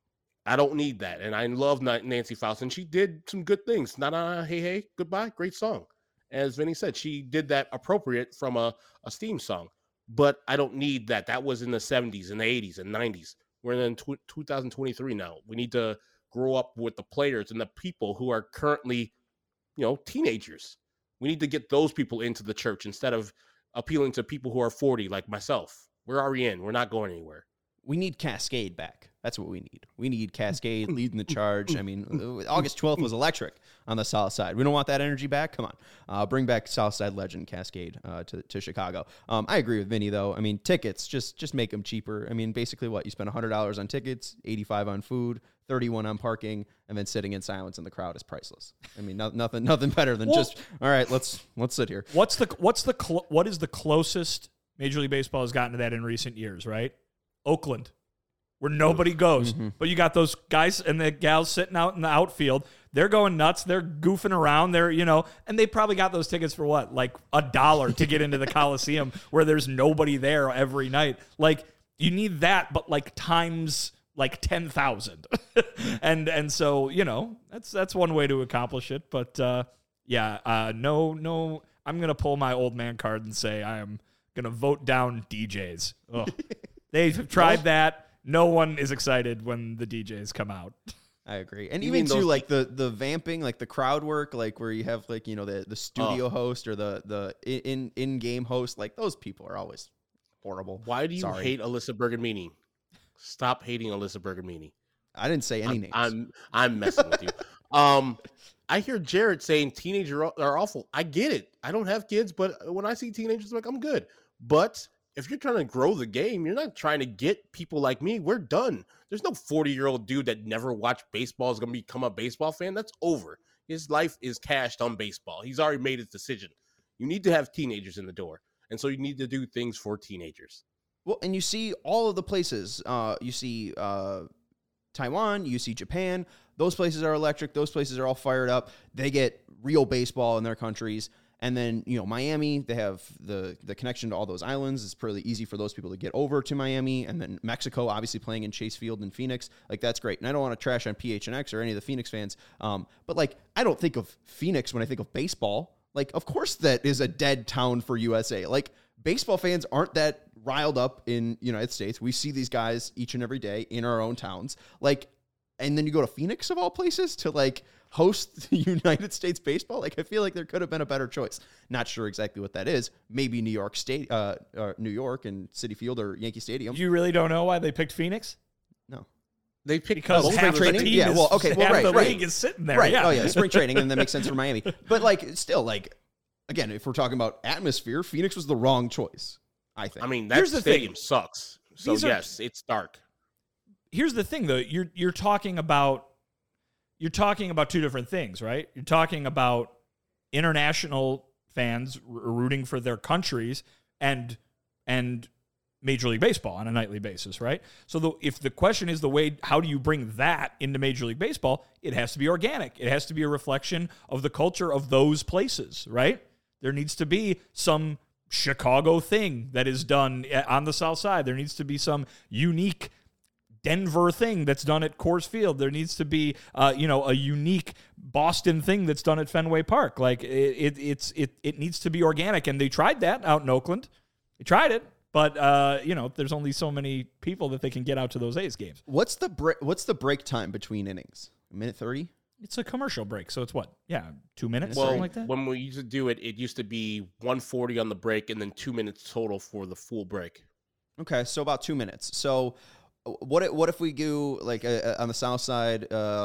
I don't need that. And I love Nancy Faust. And she did some good things. Not hey, hey, goodbye. Great song. As Vinny said, she did that appropriate from a Steam song. But I don't need that. That was in the 70s and the 80s and 90s. We're in 2023 now. We need to grow up with the players and the people who are currently, teenagers. We need to get those people into the church instead of appealing to people who are 40 like myself. We're already in. We're not going anywhere. We need Cascade back. That's what we need. We need Cascade leading the charge. I mean, August 12th was electric on the South Side. We don't want that energy back? Come on. Bring back South Side legend Cascade to Chicago. I agree with Vinny, though. I mean, tickets, just make them cheaper. I mean, basically what? You spend $100 on tickets, $85 on food, $31 on parking, and then sitting in silence in the crowd is priceless. I mean, nothing better than all right, let's sit here. What is the closest Major League Baseball has gotten to that in recent years, right? Oakland, where nobody goes. Mm-hmm. But you got those guys and the gals sitting out in the outfield. They're going nuts. They're goofing around. They're, and they probably got those tickets for what? Like $1 to get into the Coliseum where there's nobody there every night. Like, you need that, but like times like 10,000. and so, that's one way to accomplish it. But no, I'm going to pull my old man card and say I am going to vote down DJs. They've tried that. No one is excited when the DJs come out. I agree. And even too, like the vamping, like the crowd work, like where you have like, the studio host or the in-game host, like those people are always horrible. Why do you hate Alyssa Bergamini? Stop hating Alyssa Bergamini. I didn't say any names. I'm messing with you. I hear Jared saying teenagers are awful. I get it. I don't have kids, but when I see teenagers, I'm like, I'm good. But if you're trying to grow the game, you're not trying to get people like me. We're done. There's no 40-year-old dude that never watched baseball is going to become a baseball fan. That's over. His life is cashed on baseball. He's already made his decision. You need to have teenagers in the door. And so you need to do things for teenagers. Well, and you see all of the places. You see Taiwan, you see Japan. Those places are electric. Those places are all fired up. They get real baseball in their countries. And then, Miami, they have the connection to all those islands. It's pretty easy for those people to get over to Miami. And then Mexico, obviously playing in Chase Field in Phoenix. Like, that's great. And I don't want to trash on PHNX or any of the Phoenix fans. But, like, I don't think of Phoenix when I think of baseball. Like, of course that is a dead town for USA. Like, baseball fans aren't that riled up in United States. We see these guys each and every day in our own towns. Like, and then you go to Phoenix, of all places, to, like, host United States baseball. Like, I feel like there could have been a better choice. Not sure exactly what that is. Maybe New York State, New York and Citi Field or Yankee Stadium. You really don't know why they picked Phoenix? No. They picked because half the team yeah, well, okay, well, half right, the league is sitting there. Right. Yeah. Oh, yeah, spring training, and that makes sense for Miami. But, like, still, like, again, if we're talking about atmosphere, Phoenix was the wrong choice, I think. I mean, that stadium sucks. So, yes, it's dark. Here's the thing, though. You're talking about two different things, right? You're talking about international fans rooting for their countries and Major League Baseball on a nightly basis, right? So if the question is how do you bring that into Major League Baseball, it has to be organic. It has to be a reflection of the culture of those places, right? There needs to be some Chicago thing that is done on the South Side. There needs to be some unique Denver thing that's done at Coors Field. There needs to be, a unique Boston thing that's done at Fenway Park. Like it needs to be organic, and they tried that out in Oakland. They tried it, but there's only so many people that they can get out to those A's games. What's the break time between innings? A minute 30? It's a commercial break, so it's what? Yeah, 2 minutes, well, something like that? When we used to do it, it used to be 1:40 on the break and then 2 minutes total for the full break. Okay, so about 2 minutes. So what if we do, like, on the South Side,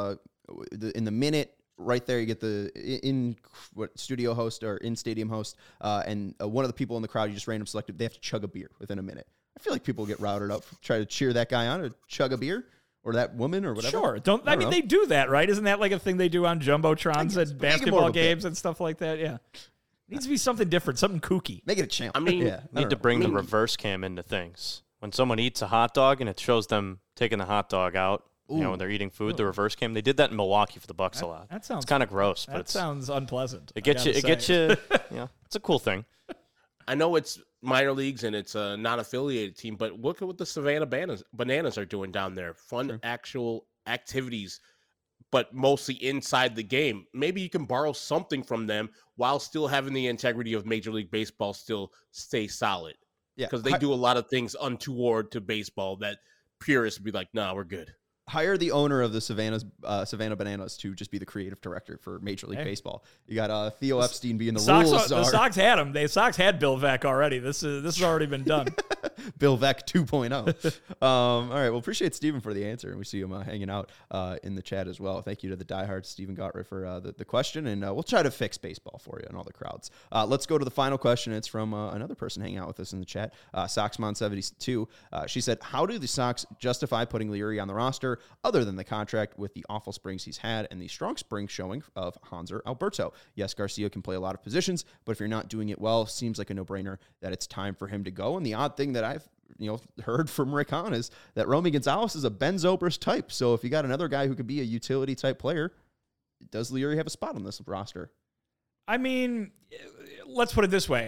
in the minute, right there, you get the studio host or in-stadium host, and one of the people in the crowd you just random selected, they have to chug a beer within a minute. I feel like people get routed up, try to cheer that guy on or chug a beer. Or that woman, or whatever. Sure. I mean, they do that, right? Isn't that like a thing they do on jumbotrons at basketball games and stuff like that? Yeah. Needs to be something different, something kooky. Make it a challenge. I mean, need to bring the reverse cam into things. When someone eats a hot dog and it shows them taking the hot dog out, when they're eating food, the reverse cam. They did that in Milwaukee for the Bucks a lot. That sounds. It's kind of gross, but it sounds unpleasant. It gets you. It's a cool thing. I know it's minor leagues and it's a non-affiliated team, but look at what the Savannah Bananas are doing down there. Fun, actual activities, but mostly inside the game. Maybe you can borrow something from them while still having the integrity of Major League Baseball still stay solid. Yeah, because they do a lot of things untoward to baseball that purists would be like, nah, we're good. Hire the owner of the Savannah Bananas to just be the creative director for Major League Baseball. You got Theo Epstein being the rules czar. The Sox had him. The Sox had Bill Veeck already. This has already been done. Bill Veeck 2.0. All right. Well, appreciate Stephen for the answer, and we see him hanging out in the chat as well. Thank you to the diehard Stephen Gottrick for the question, and we'll try to fix baseball for you and all the crowds. Let's go to the final question. It's from another person hanging out with us in the chat, Soxmon72. She said, how do the Sox justify putting Leury on the roster other than the contract with the awful springs he's had and the strong spring showing of Hanser Alberto? Yes, Garcia can play a lot of positions, but if you're not doing it well, seems like a no-brainer that it's time for him to go. And the odd thing that I've heard from Rick Hahn is that Romy Gonzalez is a Ben Zobrist type. So if you got another guy who could be a utility type player, does Leury have a spot on this roster? I mean, let's put it this way.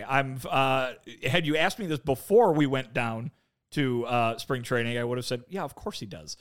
Had you asked me this before we went down to spring training, I would have said, yeah, of course he does.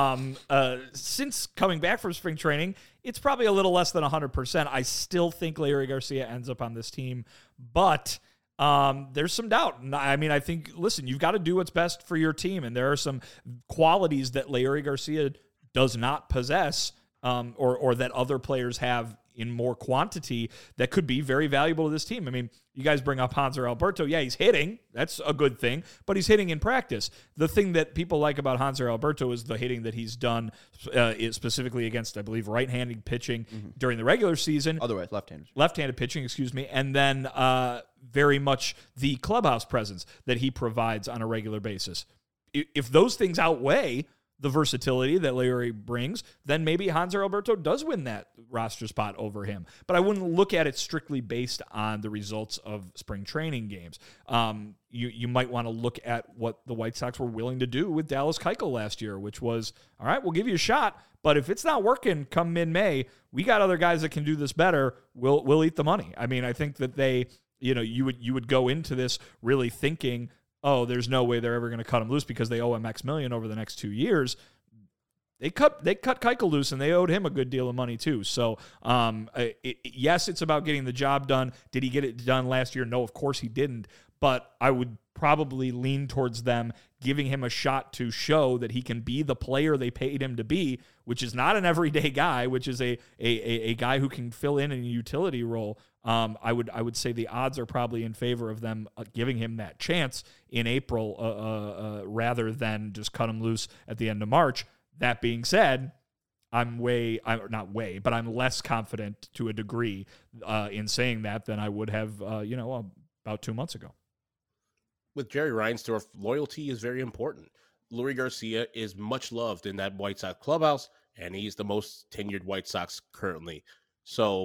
Since coming back from spring training, it's probably a little less than 100%. I still think Leury Garcia ends up on this team, but there's some doubt. I mean, I think, listen, you've got to do what's best for your team, and there are some qualities that Leury Garcia does not possess, or that other players have in more quantity that could be very valuable to this team. I mean, you guys bring up Hanser Alberto. Yeah, he's hitting. That's a good thing, but he's hitting in practice. The thing that people like about Hanser Alberto is the hitting that he's done specifically against, I believe, right-handed pitching during the regular season. Otherwise, left-handed. Left-handed pitching, excuse me. And then very much the clubhouse presence that he provides on a regular basis. If those things outweigh the versatility that Leury brings, then maybe Hanser Alberto does win that roster spot over him. But I wouldn't look at it strictly based on the results of spring training games. You might want to look at what the White Sox were willing to do with Dallas Keuchel last year, which was, all right, we'll give you a shot, but if it's not working come mid-May, we got other guys that can do this better. We'll eat the money. I mean, I think that you would go into this really thinking, oh, there's no way they're ever going to cut him loose because they owe him X million over the next 2 years. They cut Keuchel loose, and they owed him a good deal of money too. So, yes, it's about getting the job done. Did he get it done last year? No, of course he didn't. But I would probably lean towards them giving him a shot to show that he can be the player they paid him to be, which is not an everyday guy, which is a guy who can fill in a utility role. I would say the odds are probably in favor of them giving him that chance in April rather than just cut him loose at the end of March. That being said, I'm less confident to a degree in saying that than I would have, about 2 months ago. With Jerry Reinsdorf, loyalty is very important. Leury Garcia is much loved in that White Sox clubhouse, and he's the most tenured White Sox currently. So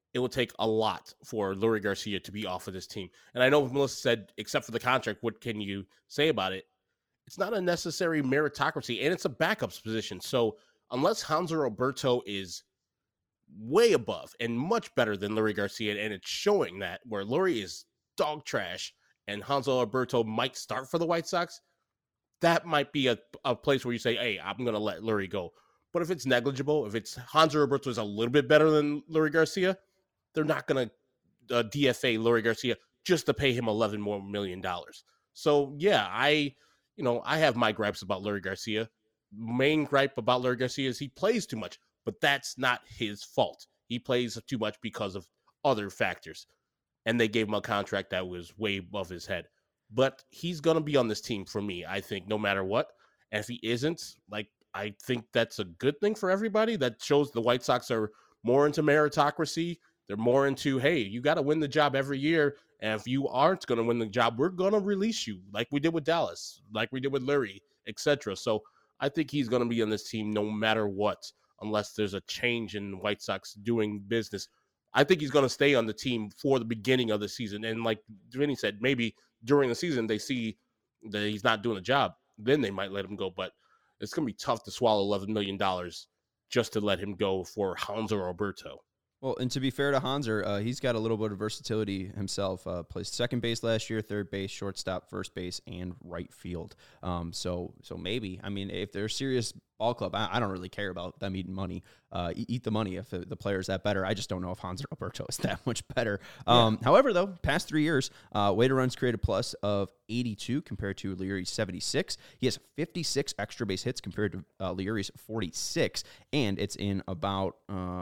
it will take a lot for Leury Garcia to be off of this team. And I know Melissa said, except for the contract, what can you say about it? It's not a necessary meritocracy, and it's a backups position. So unless Hanser Alberto is way above and much better than Leury Garcia, and it's showing that where Leury is dog trash and Hanser Alberto might start for the White Sox, that might be a place where you say, hey, I'm going to let Leury go. But if it's negligible, if it's Hanser Alberto is a little bit better than Leury Garcia, they're not going to DFA Leury Garcia just to pay him $11 million more. So, yeah, I have my gripes about Leury Garcia. Main gripe about Leury Garcia is he plays too much, but that's not his fault. He plays too much because of other factors. And they gave him a contract that was way above his head. But he's going to be on this team for me, I think, no matter what. And if he isn't, I think that's a good thing for everybody. That shows the White Sox are more into meritocracy. They're more into, hey, you got to win the job every year. And if you aren't going to win the job, we're going to release you like we did with Dallas, like we did with Leury, etc. So I think he's going to be on this team no matter what, unless there's a change in White Sox doing business. I think he's going to stay on the team for the beginning of the season. And like Vinny said, maybe during the season they see that he's not doing a job. Then they might let him go. But it's going to be tough to swallow $11 million just to let him go for Hanser Alberto. Well, and to be fair to Hanser, he's got a little bit of versatility himself. Plays second base last year, third base, shortstop, first base, and right field. So maybe, I mean, if they're a serious ball club, I don't really care about them eating money. Eat the money if the player's that better. I just don't know if Hanser Alberto is that much better. However, though, past 3 years, weighted runs created plus of 82 compared to Leury's 76. He has 56 extra base hits compared to Leury's 46, and it's in about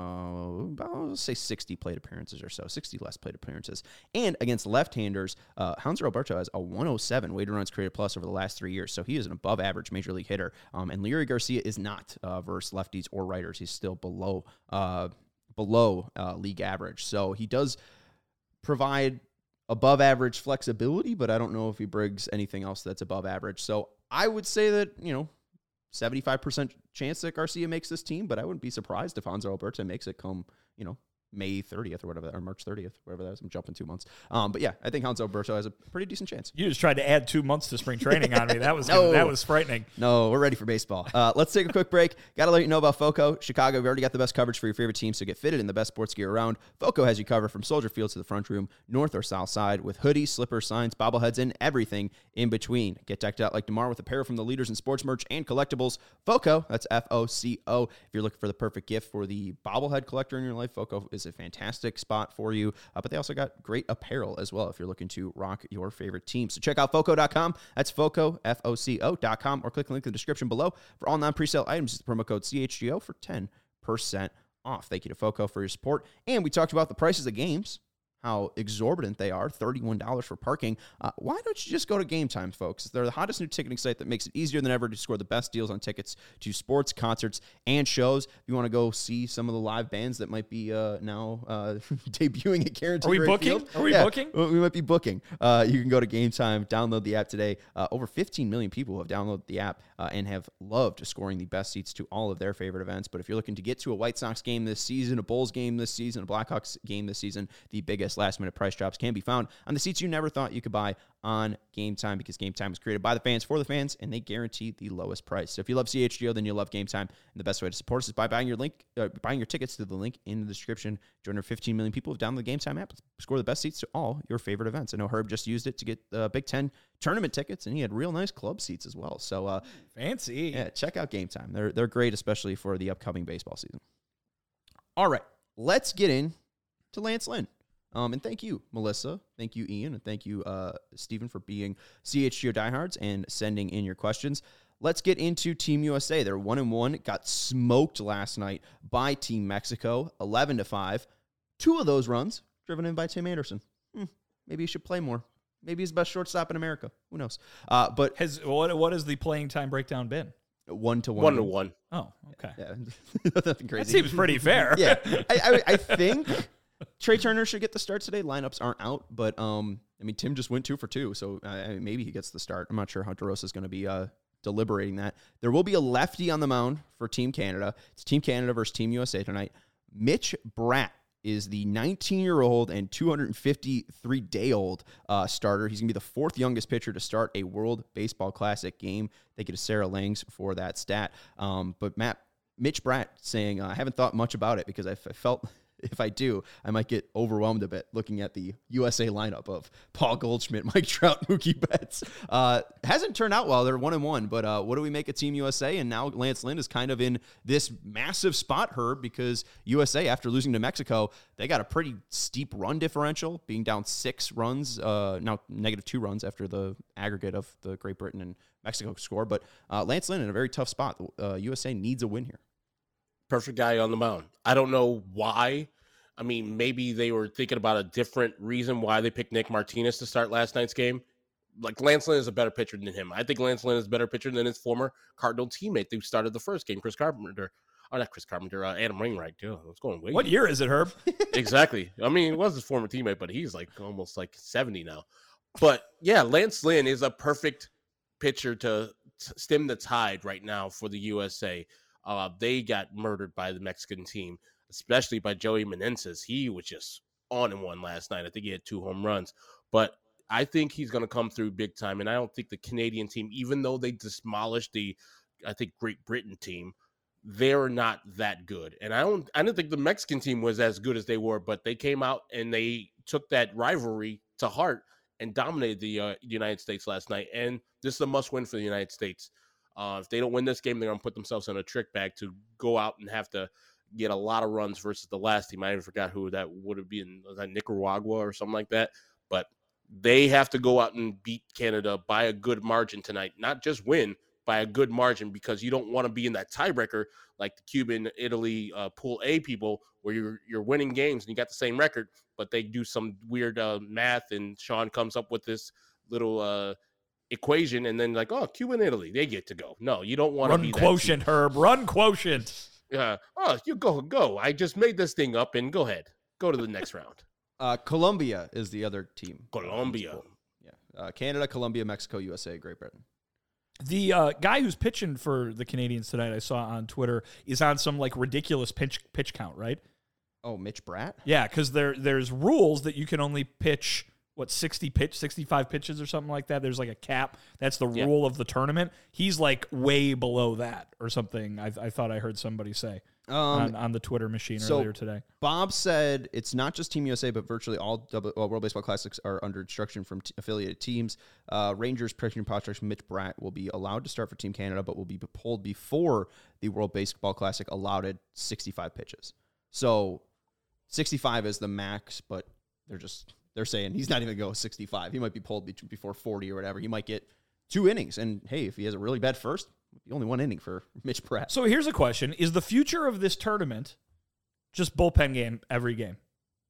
let's say 60 plate appearances or so, 60 less plate appearances. And against left-handers, Hanser Alberto has a 107 weighted runs created plus over the last 3 years, so he is an above-average major league hitter. And Leury Garcia is not versus lefties or righters. He's still below league average. So he does provide above average flexibility, but I don't know if he brings anything else that's above average. So I would say that, 75% chance that Garcia makes this team, but I wouldn't be surprised if Hanser Alberto makes it come, May 30th or whatever, or March 30th, whatever that is. I'm jumping 2 months. But yeah, I think Hanser Alberto has a pretty decent chance. You just tried to add 2 months to spring training on me. That was frightening. No, we're ready for baseball. Let's take a quick break. Got to let you know about FOCO. Chicago, we've already got the best coverage for your favorite team, so get fitted in the best sports gear around. FOCO has you covered from Soldier Field to the front room, north or south side, with hoodies, slippers, signs, bobbleheads, and everything in between. Get decked out like DeMar with apparel from the leaders in sports merch and collectibles. FOCO, that's FOCO. If you're looking for the perfect gift for the bobblehead collector in your life, FOCO is a fantastic spot for you, but they also got great apparel as well if you're looking to rock your favorite team. So check out FOCO.com. That's FOCO, FOCO.com, or click the link in the description below. For all non-presale items, use the promo code CHGO for 10% off. Thank you to FOCO for your support. And we talked about the prices of games, how exorbitant they are, $31 for parking. Why don't you just go to Game Time, folks? They're the hottest new ticketing site that makes it easier than ever to score the best deals on tickets to sports, concerts, and shows. If you want to go see some of the live bands that might be now debuting at Guaranteed Rate Field. Are we booking? We might be booking. You can go to Game Time, download the app today. Over 15 million people have downloaded the app and have loved scoring the best seats to all of their favorite events. But if you're looking to get to a White Sox game this season, a Bulls game this season, a Blackhawks game this season, the biggest last-minute price drops can be found on the seats you never thought you could buy on Game Time, because Game Time was created by the fans for the fans, and they guarantee the lowest price. So if you love CHGO, then you'll love Game Time, and the best way to support us is by buying your tickets through the link in the description. Join our 15 million people who've downloaded the Game Time app. Score the best seats to all your favorite events. I know Herb just used it to get Big Ten tournament tickets, and he had real nice club seats as well. So fancy. Yeah, check out Game Time. They're great, especially for the upcoming baseball season. All right, let's get in to Lance Lynn. And thank you, Melissa. Thank you, Ian. And thank you, Stephen, for being CHGO diehards and sending in your questions. Let's get into Team USA. They're 1-1, got smoked last night by Team Mexico, 11-5. 2 of those runs driven in by Tim Anderson. Maybe he should play more. Maybe he's the best shortstop in America. Who knows? But what has the playing time breakdown been? 1-1. 1-1. Oh, okay. Yeah, nothing crazy. That seems pretty fair. Yeah, I think Trey Turner should get the start today. Lineups aren't out, but Tim just went 2 for 2, so maybe he gets the start. I'm not sure how DeRosa is going to be deliberating that. There will be a lefty on the mound for Team Canada. It's Team Canada versus Team USA tonight. Mitch Bratt is the 19-year-old and 253-day-old starter. He's going to be the fourth youngest pitcher to start a World Baseball Classic game. Thank you to Sarah Langs for that stat. But Mitch Bratt saying, I haven't thought much about it because I felt if I do, I might get overwhelmed a bit looking at the USA lineup of Paul Goldschmidt, Mike Trout, Mookie Betts. Hasn't turned out well. They're 1-1, but what do we make of Team USA? And now Lance Lynn is kind of in this massive spot, Herb, because USA, after losing to Mexico, they got a pretty steep run differential, being down 6 runs, now -2 runs after the aggregate of the Great Britain and Mexico score. But Lance Lynn in a very tough spot. USA needs a win here. Perfect guy on the mound. I don't know why. I mean, maybe they were thinking about a different reason why they picked Nick Martinez to start last night's game. Like, Lance Lynn is a better pitcher than him. I think Lance Lynn is a better pitcher than his former Cardinal teammate who started the first game, Adam Wainwright. Dude, what's going on? What year is it, Herb? Exactly. I mean, it was his former teammate, but he's like almost like 70 now. But yeah, Lance Lynn is a perfect pitcher to stem the tide right now for the USA. They got murdered by the Mexican team, especially by Joey Meneses. He was just on and one last night. I think he had 2 home runs. But I think he's going to come through big time. And I don't think the Canadian team, even though they demolished Great Britain team, they're not that good. And I don't think the Mexican team was as good as they were, but they came out and they took that rivalry to heart and dominated the United States last night. And this is a must-win for the United States. If they don't win this game, they're going to put themselves in a trick bag to go out and have to get a lot of runs versus the last team. I even forgot who that would have been. Was that Nicaragua or something like that? But they have to go out and beat Canada by a good margin tonight. Not just win, by a good margin, because you don't want to be in that tiebreaker like the Cuban, Italy, Pool A people, where you're winning games and you got the same record, but they do some weird math, and Sean comes up with this little equation, and then like, oh, Cuba and Italy, they get to go. No, you don't want to be that quotient, Herb. Run quotient. Oh, you go. I just made this thing up, and go ahead. Go to the next round. Colombia is the other team. Colombia. Yeah. Canada, Colombia, Mexico, USA, Great Britain. The guy who's pitching for the Canadians tonight, I saw on Twitter, is on some like ridiculous pitch count, right? Oh, Mitch Bratt? Yeah, because there's rules that you can only pitch 65 pitches or something like that. There's like a cap. That's the rule of the tournament. He's like way below that or something. I thought I heard somebody say on the Twitter machine earlier today. Bob said it's not just Team USA, but virtually all World Baseball Classics are under instruction from affiliated teams. Rangers pitching prospect Mitch Bratt will be allowed to start for Team Canada, but will be pulled before the World Baseball Classic allowed at 65 pitches. So 65 is the max, but they're saying he's not even going to go 65. He might be pulled before 40 or whatever. He might get 2 innings. And, hey, if he has a really bad first, the only 1 inning for Mitch Bratt. So here's a question. Is the future of this tournament just bullpen game every game?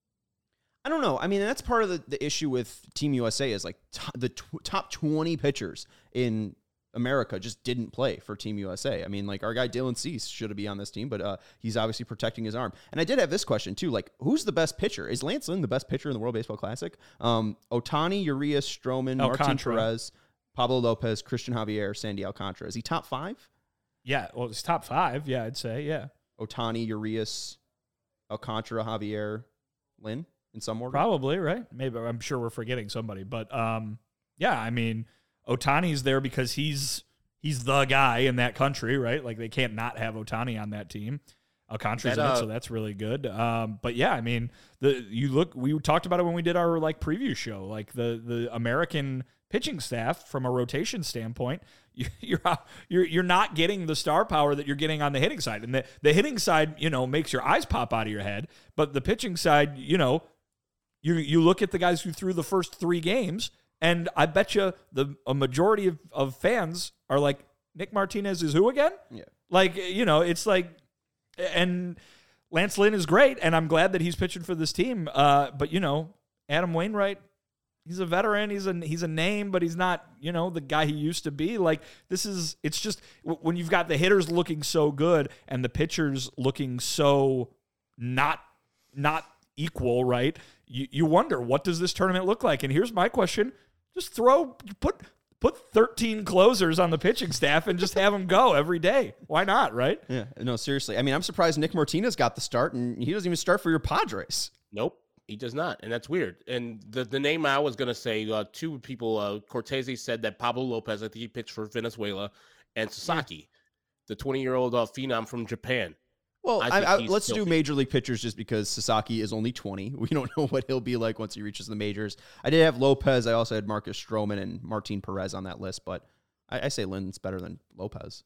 I don't know. I mean, that's part of the issue with Team USA is like the top 20 pitchers in America just didn't play for Team USA. I mean, like our guy Dylan Cease should be on this team, but he's obviously protecting his arm. And I did have this question too, like who's the best pitcher? Is Lance Lynn the best pitcher in the World Baseball Classic? Ohtani, Urias, Stroman, Martin Perez, Pablo Lopez, Christian Javier, Sandy Alcantara. Is he top 5? Yeah, well, it's top 5. Yeah, I'd say, yeah. Ohtani, Urias, Alcantara, Javier, Lynn in some order? Probably, right? Maybe. I'm sure we're forgetting somebody. But, yeah, I mean, Ohtani's there because he's the guy in that country, right? Like they can't not have Ohtani on that team. Alcantara's in it, so that's really good. But yeah, I mean, we talked about it when we did our like preview show. Like the American pitching staff, from a rotation standpoint, you're not getting the star power that you're getting on the hitting side. And the hitting side, makes your eyes pop out of your head. But the pitching side, you look at the guys who threw the first 3 games. And I bet you a majority of fans are like, Nick Martinez is who again? Yeah. Like, it's like, and Lance Lynn is great, and I'm glad that he's pitching for this team. But, Adam Wainwright, he's a veteran. He's a name, but he's not, the guy he used to be. Like, it's just, when you've got the hitters looking so good and the pitchers looking so not equal, right? You wonder, what does this tournament look like? And here's my question. Just put 13 closers on the pitching staff and just have them go every day. Why not, right? Yeah, no, seriously. I mean, I'm surprised Nick Martinez got the start, and he doesn't even start for your Padres. Nope, he does not, and that's weird. And the name I was going to say, two people, Cortese said that Pablo Lopez, I think he pitched for Venezuela, and Sasaki, the 20-year-old phenom from Japan. Well, let's do major league pitchers just because Sasaki is only 20. We don't know what he'll be like once he reaches the majors. I did have Lopez. I also had Marcus Stroman and Martin Perez on that list, but I say Lynn's better than Lopez.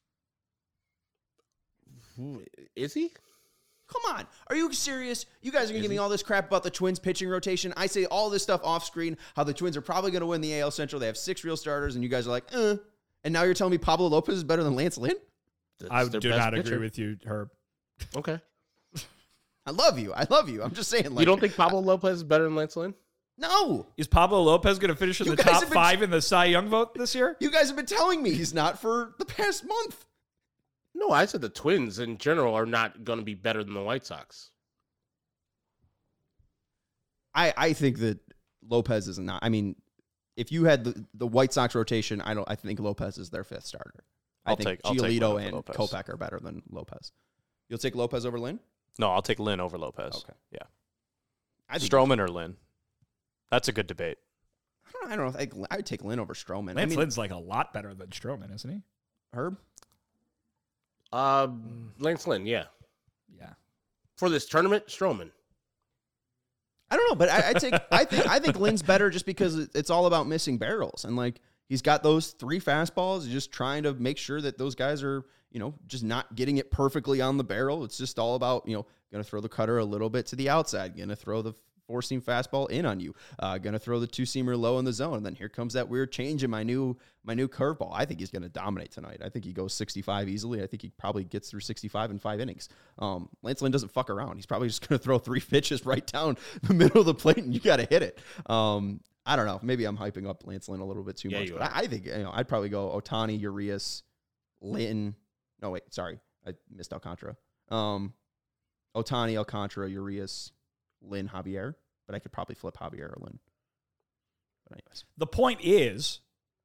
Is he? Come on. Are you serious? You guys are going to give me all this crap about the Twins pitching rotation. I say all this stuff off screen, how the Twins are probably going to win the AL Central. They have 6 real starters, and you guys are like, And now you're telling me Pablo Lopez is better than Lance Lynn? I do not agree with you, Herb. Okay. I love you. I'm just saying. Like, you don't think Pablo Lopez is better than Lance Lynn? No. Is Pablo Lopez going to finish in the top 5 in the Cy Young vote this year? You guys have been telling me he's not for the past month. No, I said the Twins in general are not going to be better than the White Sox. I think that Lopez is not. I mean, if you had the White Sox rotation, I think Lopez is their 5th starter. I think Giolito and Kopech are better than Lopez. You'll take Lopez over Lynn? No, I'll take Lynn over Lopez. Okay. Yeah. Stroman or Lynn? That's a good debate. I don't know. I would take Lynn over Stroman. Lynn's like a lot better than Stroman, isn't he? Herb? Lance Lynn, yeah. Yeah. For this tournament, Stroman. I don't know, but I think Lynn's better just because it's all about missing barrels. And like he's got those 3 fastballs. He's just trying to make sure that those guys are, just not getting it perfectly on the barrel. It's just all about, going to throw the cutter a little bit to the outside, going to throw the 4-seam fastball in on you, going to throw the 2-seamer low in the zone. And then here comes that weird change in my new curveball. I think he's going to dominate tonight. I think he goes 65 easily. I think he probably gets through 65 in 5 innings. Lance Lynn doesn't fuck around. He's probably just going to throw 3 pitches right down the middle of the plate, and you got to hit it. I don't know. Maybe I'm hyping up Lance Lynn a little bit too much, but I think I'd probably go Ohtani, Urias, Lynn. No, wait, sorry, I missed Alcantara. Ohtani, Alcantara, Urias, Lynn, Javier, but I could probably flip Javier or Lynn. But anyways, the point is,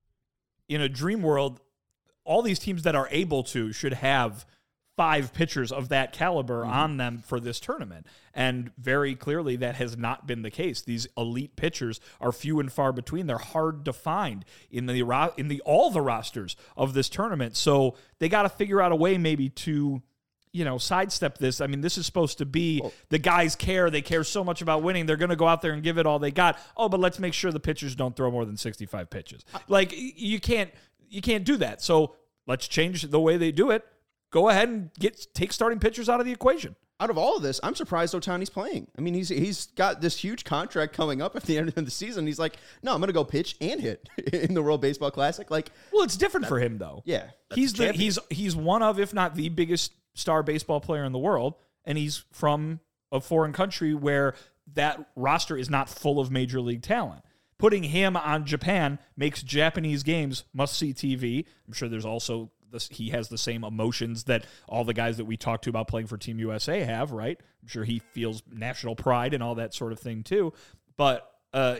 in a dream world, all these teams that are able to should have 5 pitchers of that caliber on them for this tournament. And very clearly that has not been the case. These elite pitchers are few and far between. They're hard to find in all the rosters of this tournament. So they got to figure out a way maybe to, sidestep this. I mean, this is supposed to be the guys care. They care so much about winning. They're going to go out there and give it all they got. Oh, but let's make sure the pitchers don't throw more than 65 pitches. Like you can't do that. So let's change the way they do it. Go ahead and take starting pitchers out of the equation. Out of all of this, I'm surprised Ohtani's playing. I mean, he's got this huge contract coming up at the end of the season. He's like, no, I'm going to go pitch and hit in the World Baseball Classic. Like, well, it's different for him though. Yeah, he's one of, if not the biggest star baseball player in the world, and he's from a foreign country where that roster is not full of major league talent. Putting him on Japan makes Japanese games must-see TV. I'm sure there's also he has the same emotions that all the guys that we talked to about playing for Team USA have, right? I'm sure he feels national pride and all that sort of thing too. But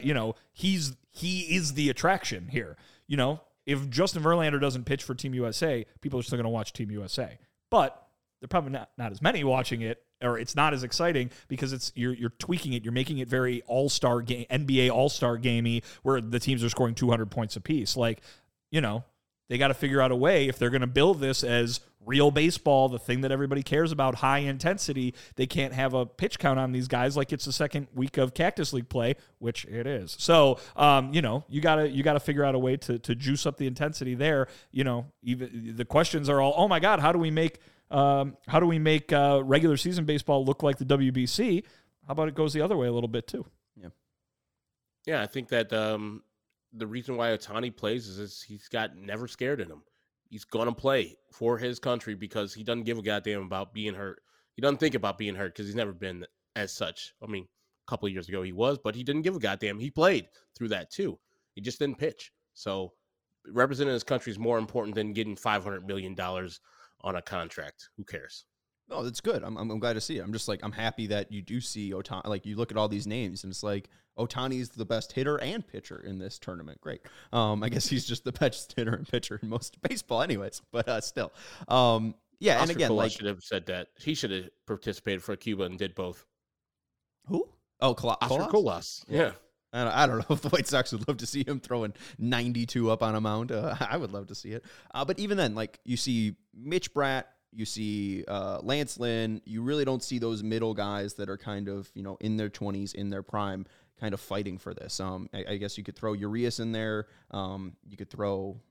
he is the attraction here. If Justin Verlander doesn't pitch for Team USA, people are still going to watch Team USA. But they're probably not as many watching it, or it's not as exciting because you're tweaking it. You're making it very all-star game, NBA all-star gamey, where the teams are scoring 200 points apiece. Like, they got to figure out a way, if they're going to build this as real baseball, the thing that everybody cares about, high intensity, they can't have a pitch count on these guys like it's the second week of Cactus League play, which it is. So, you gotta figure out a way to juice up the intensity there. Even the questions are all, oh my God, how do we make regular season baseball look like the WBC? How about it goes the other way a little bit too? Yeah, I think that the reason why Ohtani plays is he's got never scared in him. He's going to play for his country because he doesn't give a goddamn about being hurt. He doesn't think about being hurt because he's never been as such. I mean, a couple of years ago he was, but he didn't give a goddamn. He played through that too. He just didn't pitch. So representing his country is more important than getting $500 million on a contract. Who cares? No, that's good. I'm glad to see it. I'm just like, I'm happy that you do see Ohtani. Like, you look at all these names, and it's like, Ohtani's the best hitter and pitcher in this tournament. Great. I guess he's just the best hitter and pitcher in most of baseball anyways, but still. Yeah, Oscar and again, Colas like, should have said that. He should have participated for Cuba and did both. who? Oh, Oscar Colas. Yeah. I don't know if the White Sox would love to see him throwing 92 up on a mound. I would love to see it. But even then, like, you see Mitch Bratt, you see Lance Lynn, you really don't see those middle guys that are kind of, in their 20s, in their prime, kind of fighting for this. I guess you could throw Urias in there. You could throw,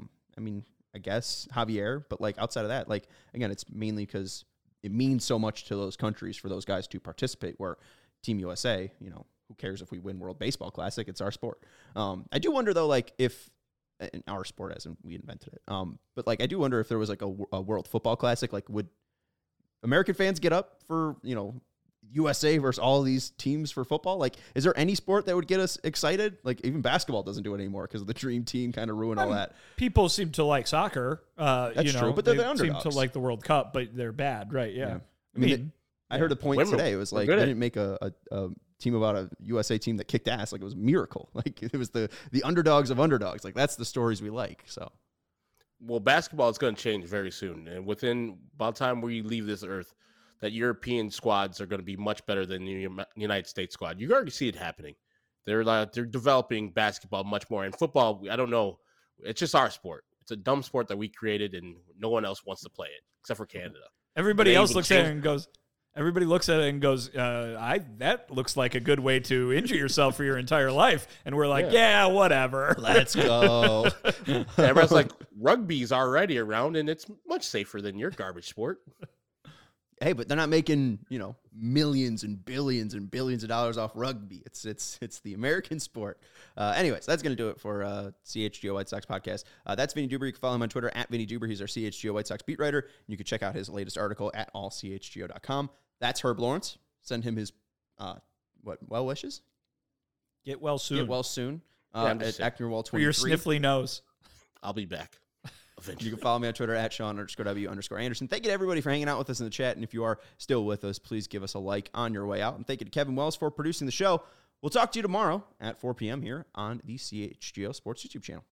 I guess Javier, but like outside of that, like, again, it's mainly because it means so much to those countries for those guys to participate, where Team USA, who cares if we win World Baseball Classic? It's our sport. I do wonder, though, like, if in our sport, as in we invented it, but like, I do wonder if there was like a World Football Classic, like, would American fans get up for, USA versus all these teams for football? Like, is there any sport that would get us excited? Like, even basketball doesn't do it anymore because the Dream Team kind of ruined all that. People seem to like soccer. That's true, but they're the underdogs. Seem to like the World Cup, but they're bad, right? Yeah. I mean, I heard a point today. It was like, they didn't make a team about a USA team that kicked ass. Like, it was a miracle. Like, it was the underdogs of underdogs. Like, that's the stories we like. So, well, basketball is going to change very soon, and within about the time we leave this earth, that European squads are going to be much better than the United States squad. You already see it happening. They're developing basketball much more, and football, I don't know. It's just our sport. It's a dumb sport that we created, and no one else wants to play it except for Canada. Everybody else looks at it and goes. Everybody looks at it and goes, that looks like a good way to injure yourself for your entire life. And we're like, yeah whatever. Let's go. Everyone's like, rugby's already around, and it's much safer than your garbage sport. Hey, but they're not making, millions and billions of dollars off rugby. It's the American sport. Anyways, that's going to do it for CHGO White Sox podcast. That's Vinny Duber. You can follow him on Twitter at Vinny Duber. He's our CHGO White Sox beat writer. You can check out his latest article at allchgo.com. That's Herb Lawrence. Send him his, well wishes? Get well soon. Get well soon. At Actonwall 23. For your sniffly nose. I'll be back. Eventually. You can follow me on Twitter at Sean_W_Anderson. Thank you to everybody for hanging out with us in the chat. And if you are still with us, please give us a like on your way out. And thank you to Kevin Wells for producing the show. We'll talk to you tomorrow at 4 p.m. here on the CHGO Sports YouTube channel.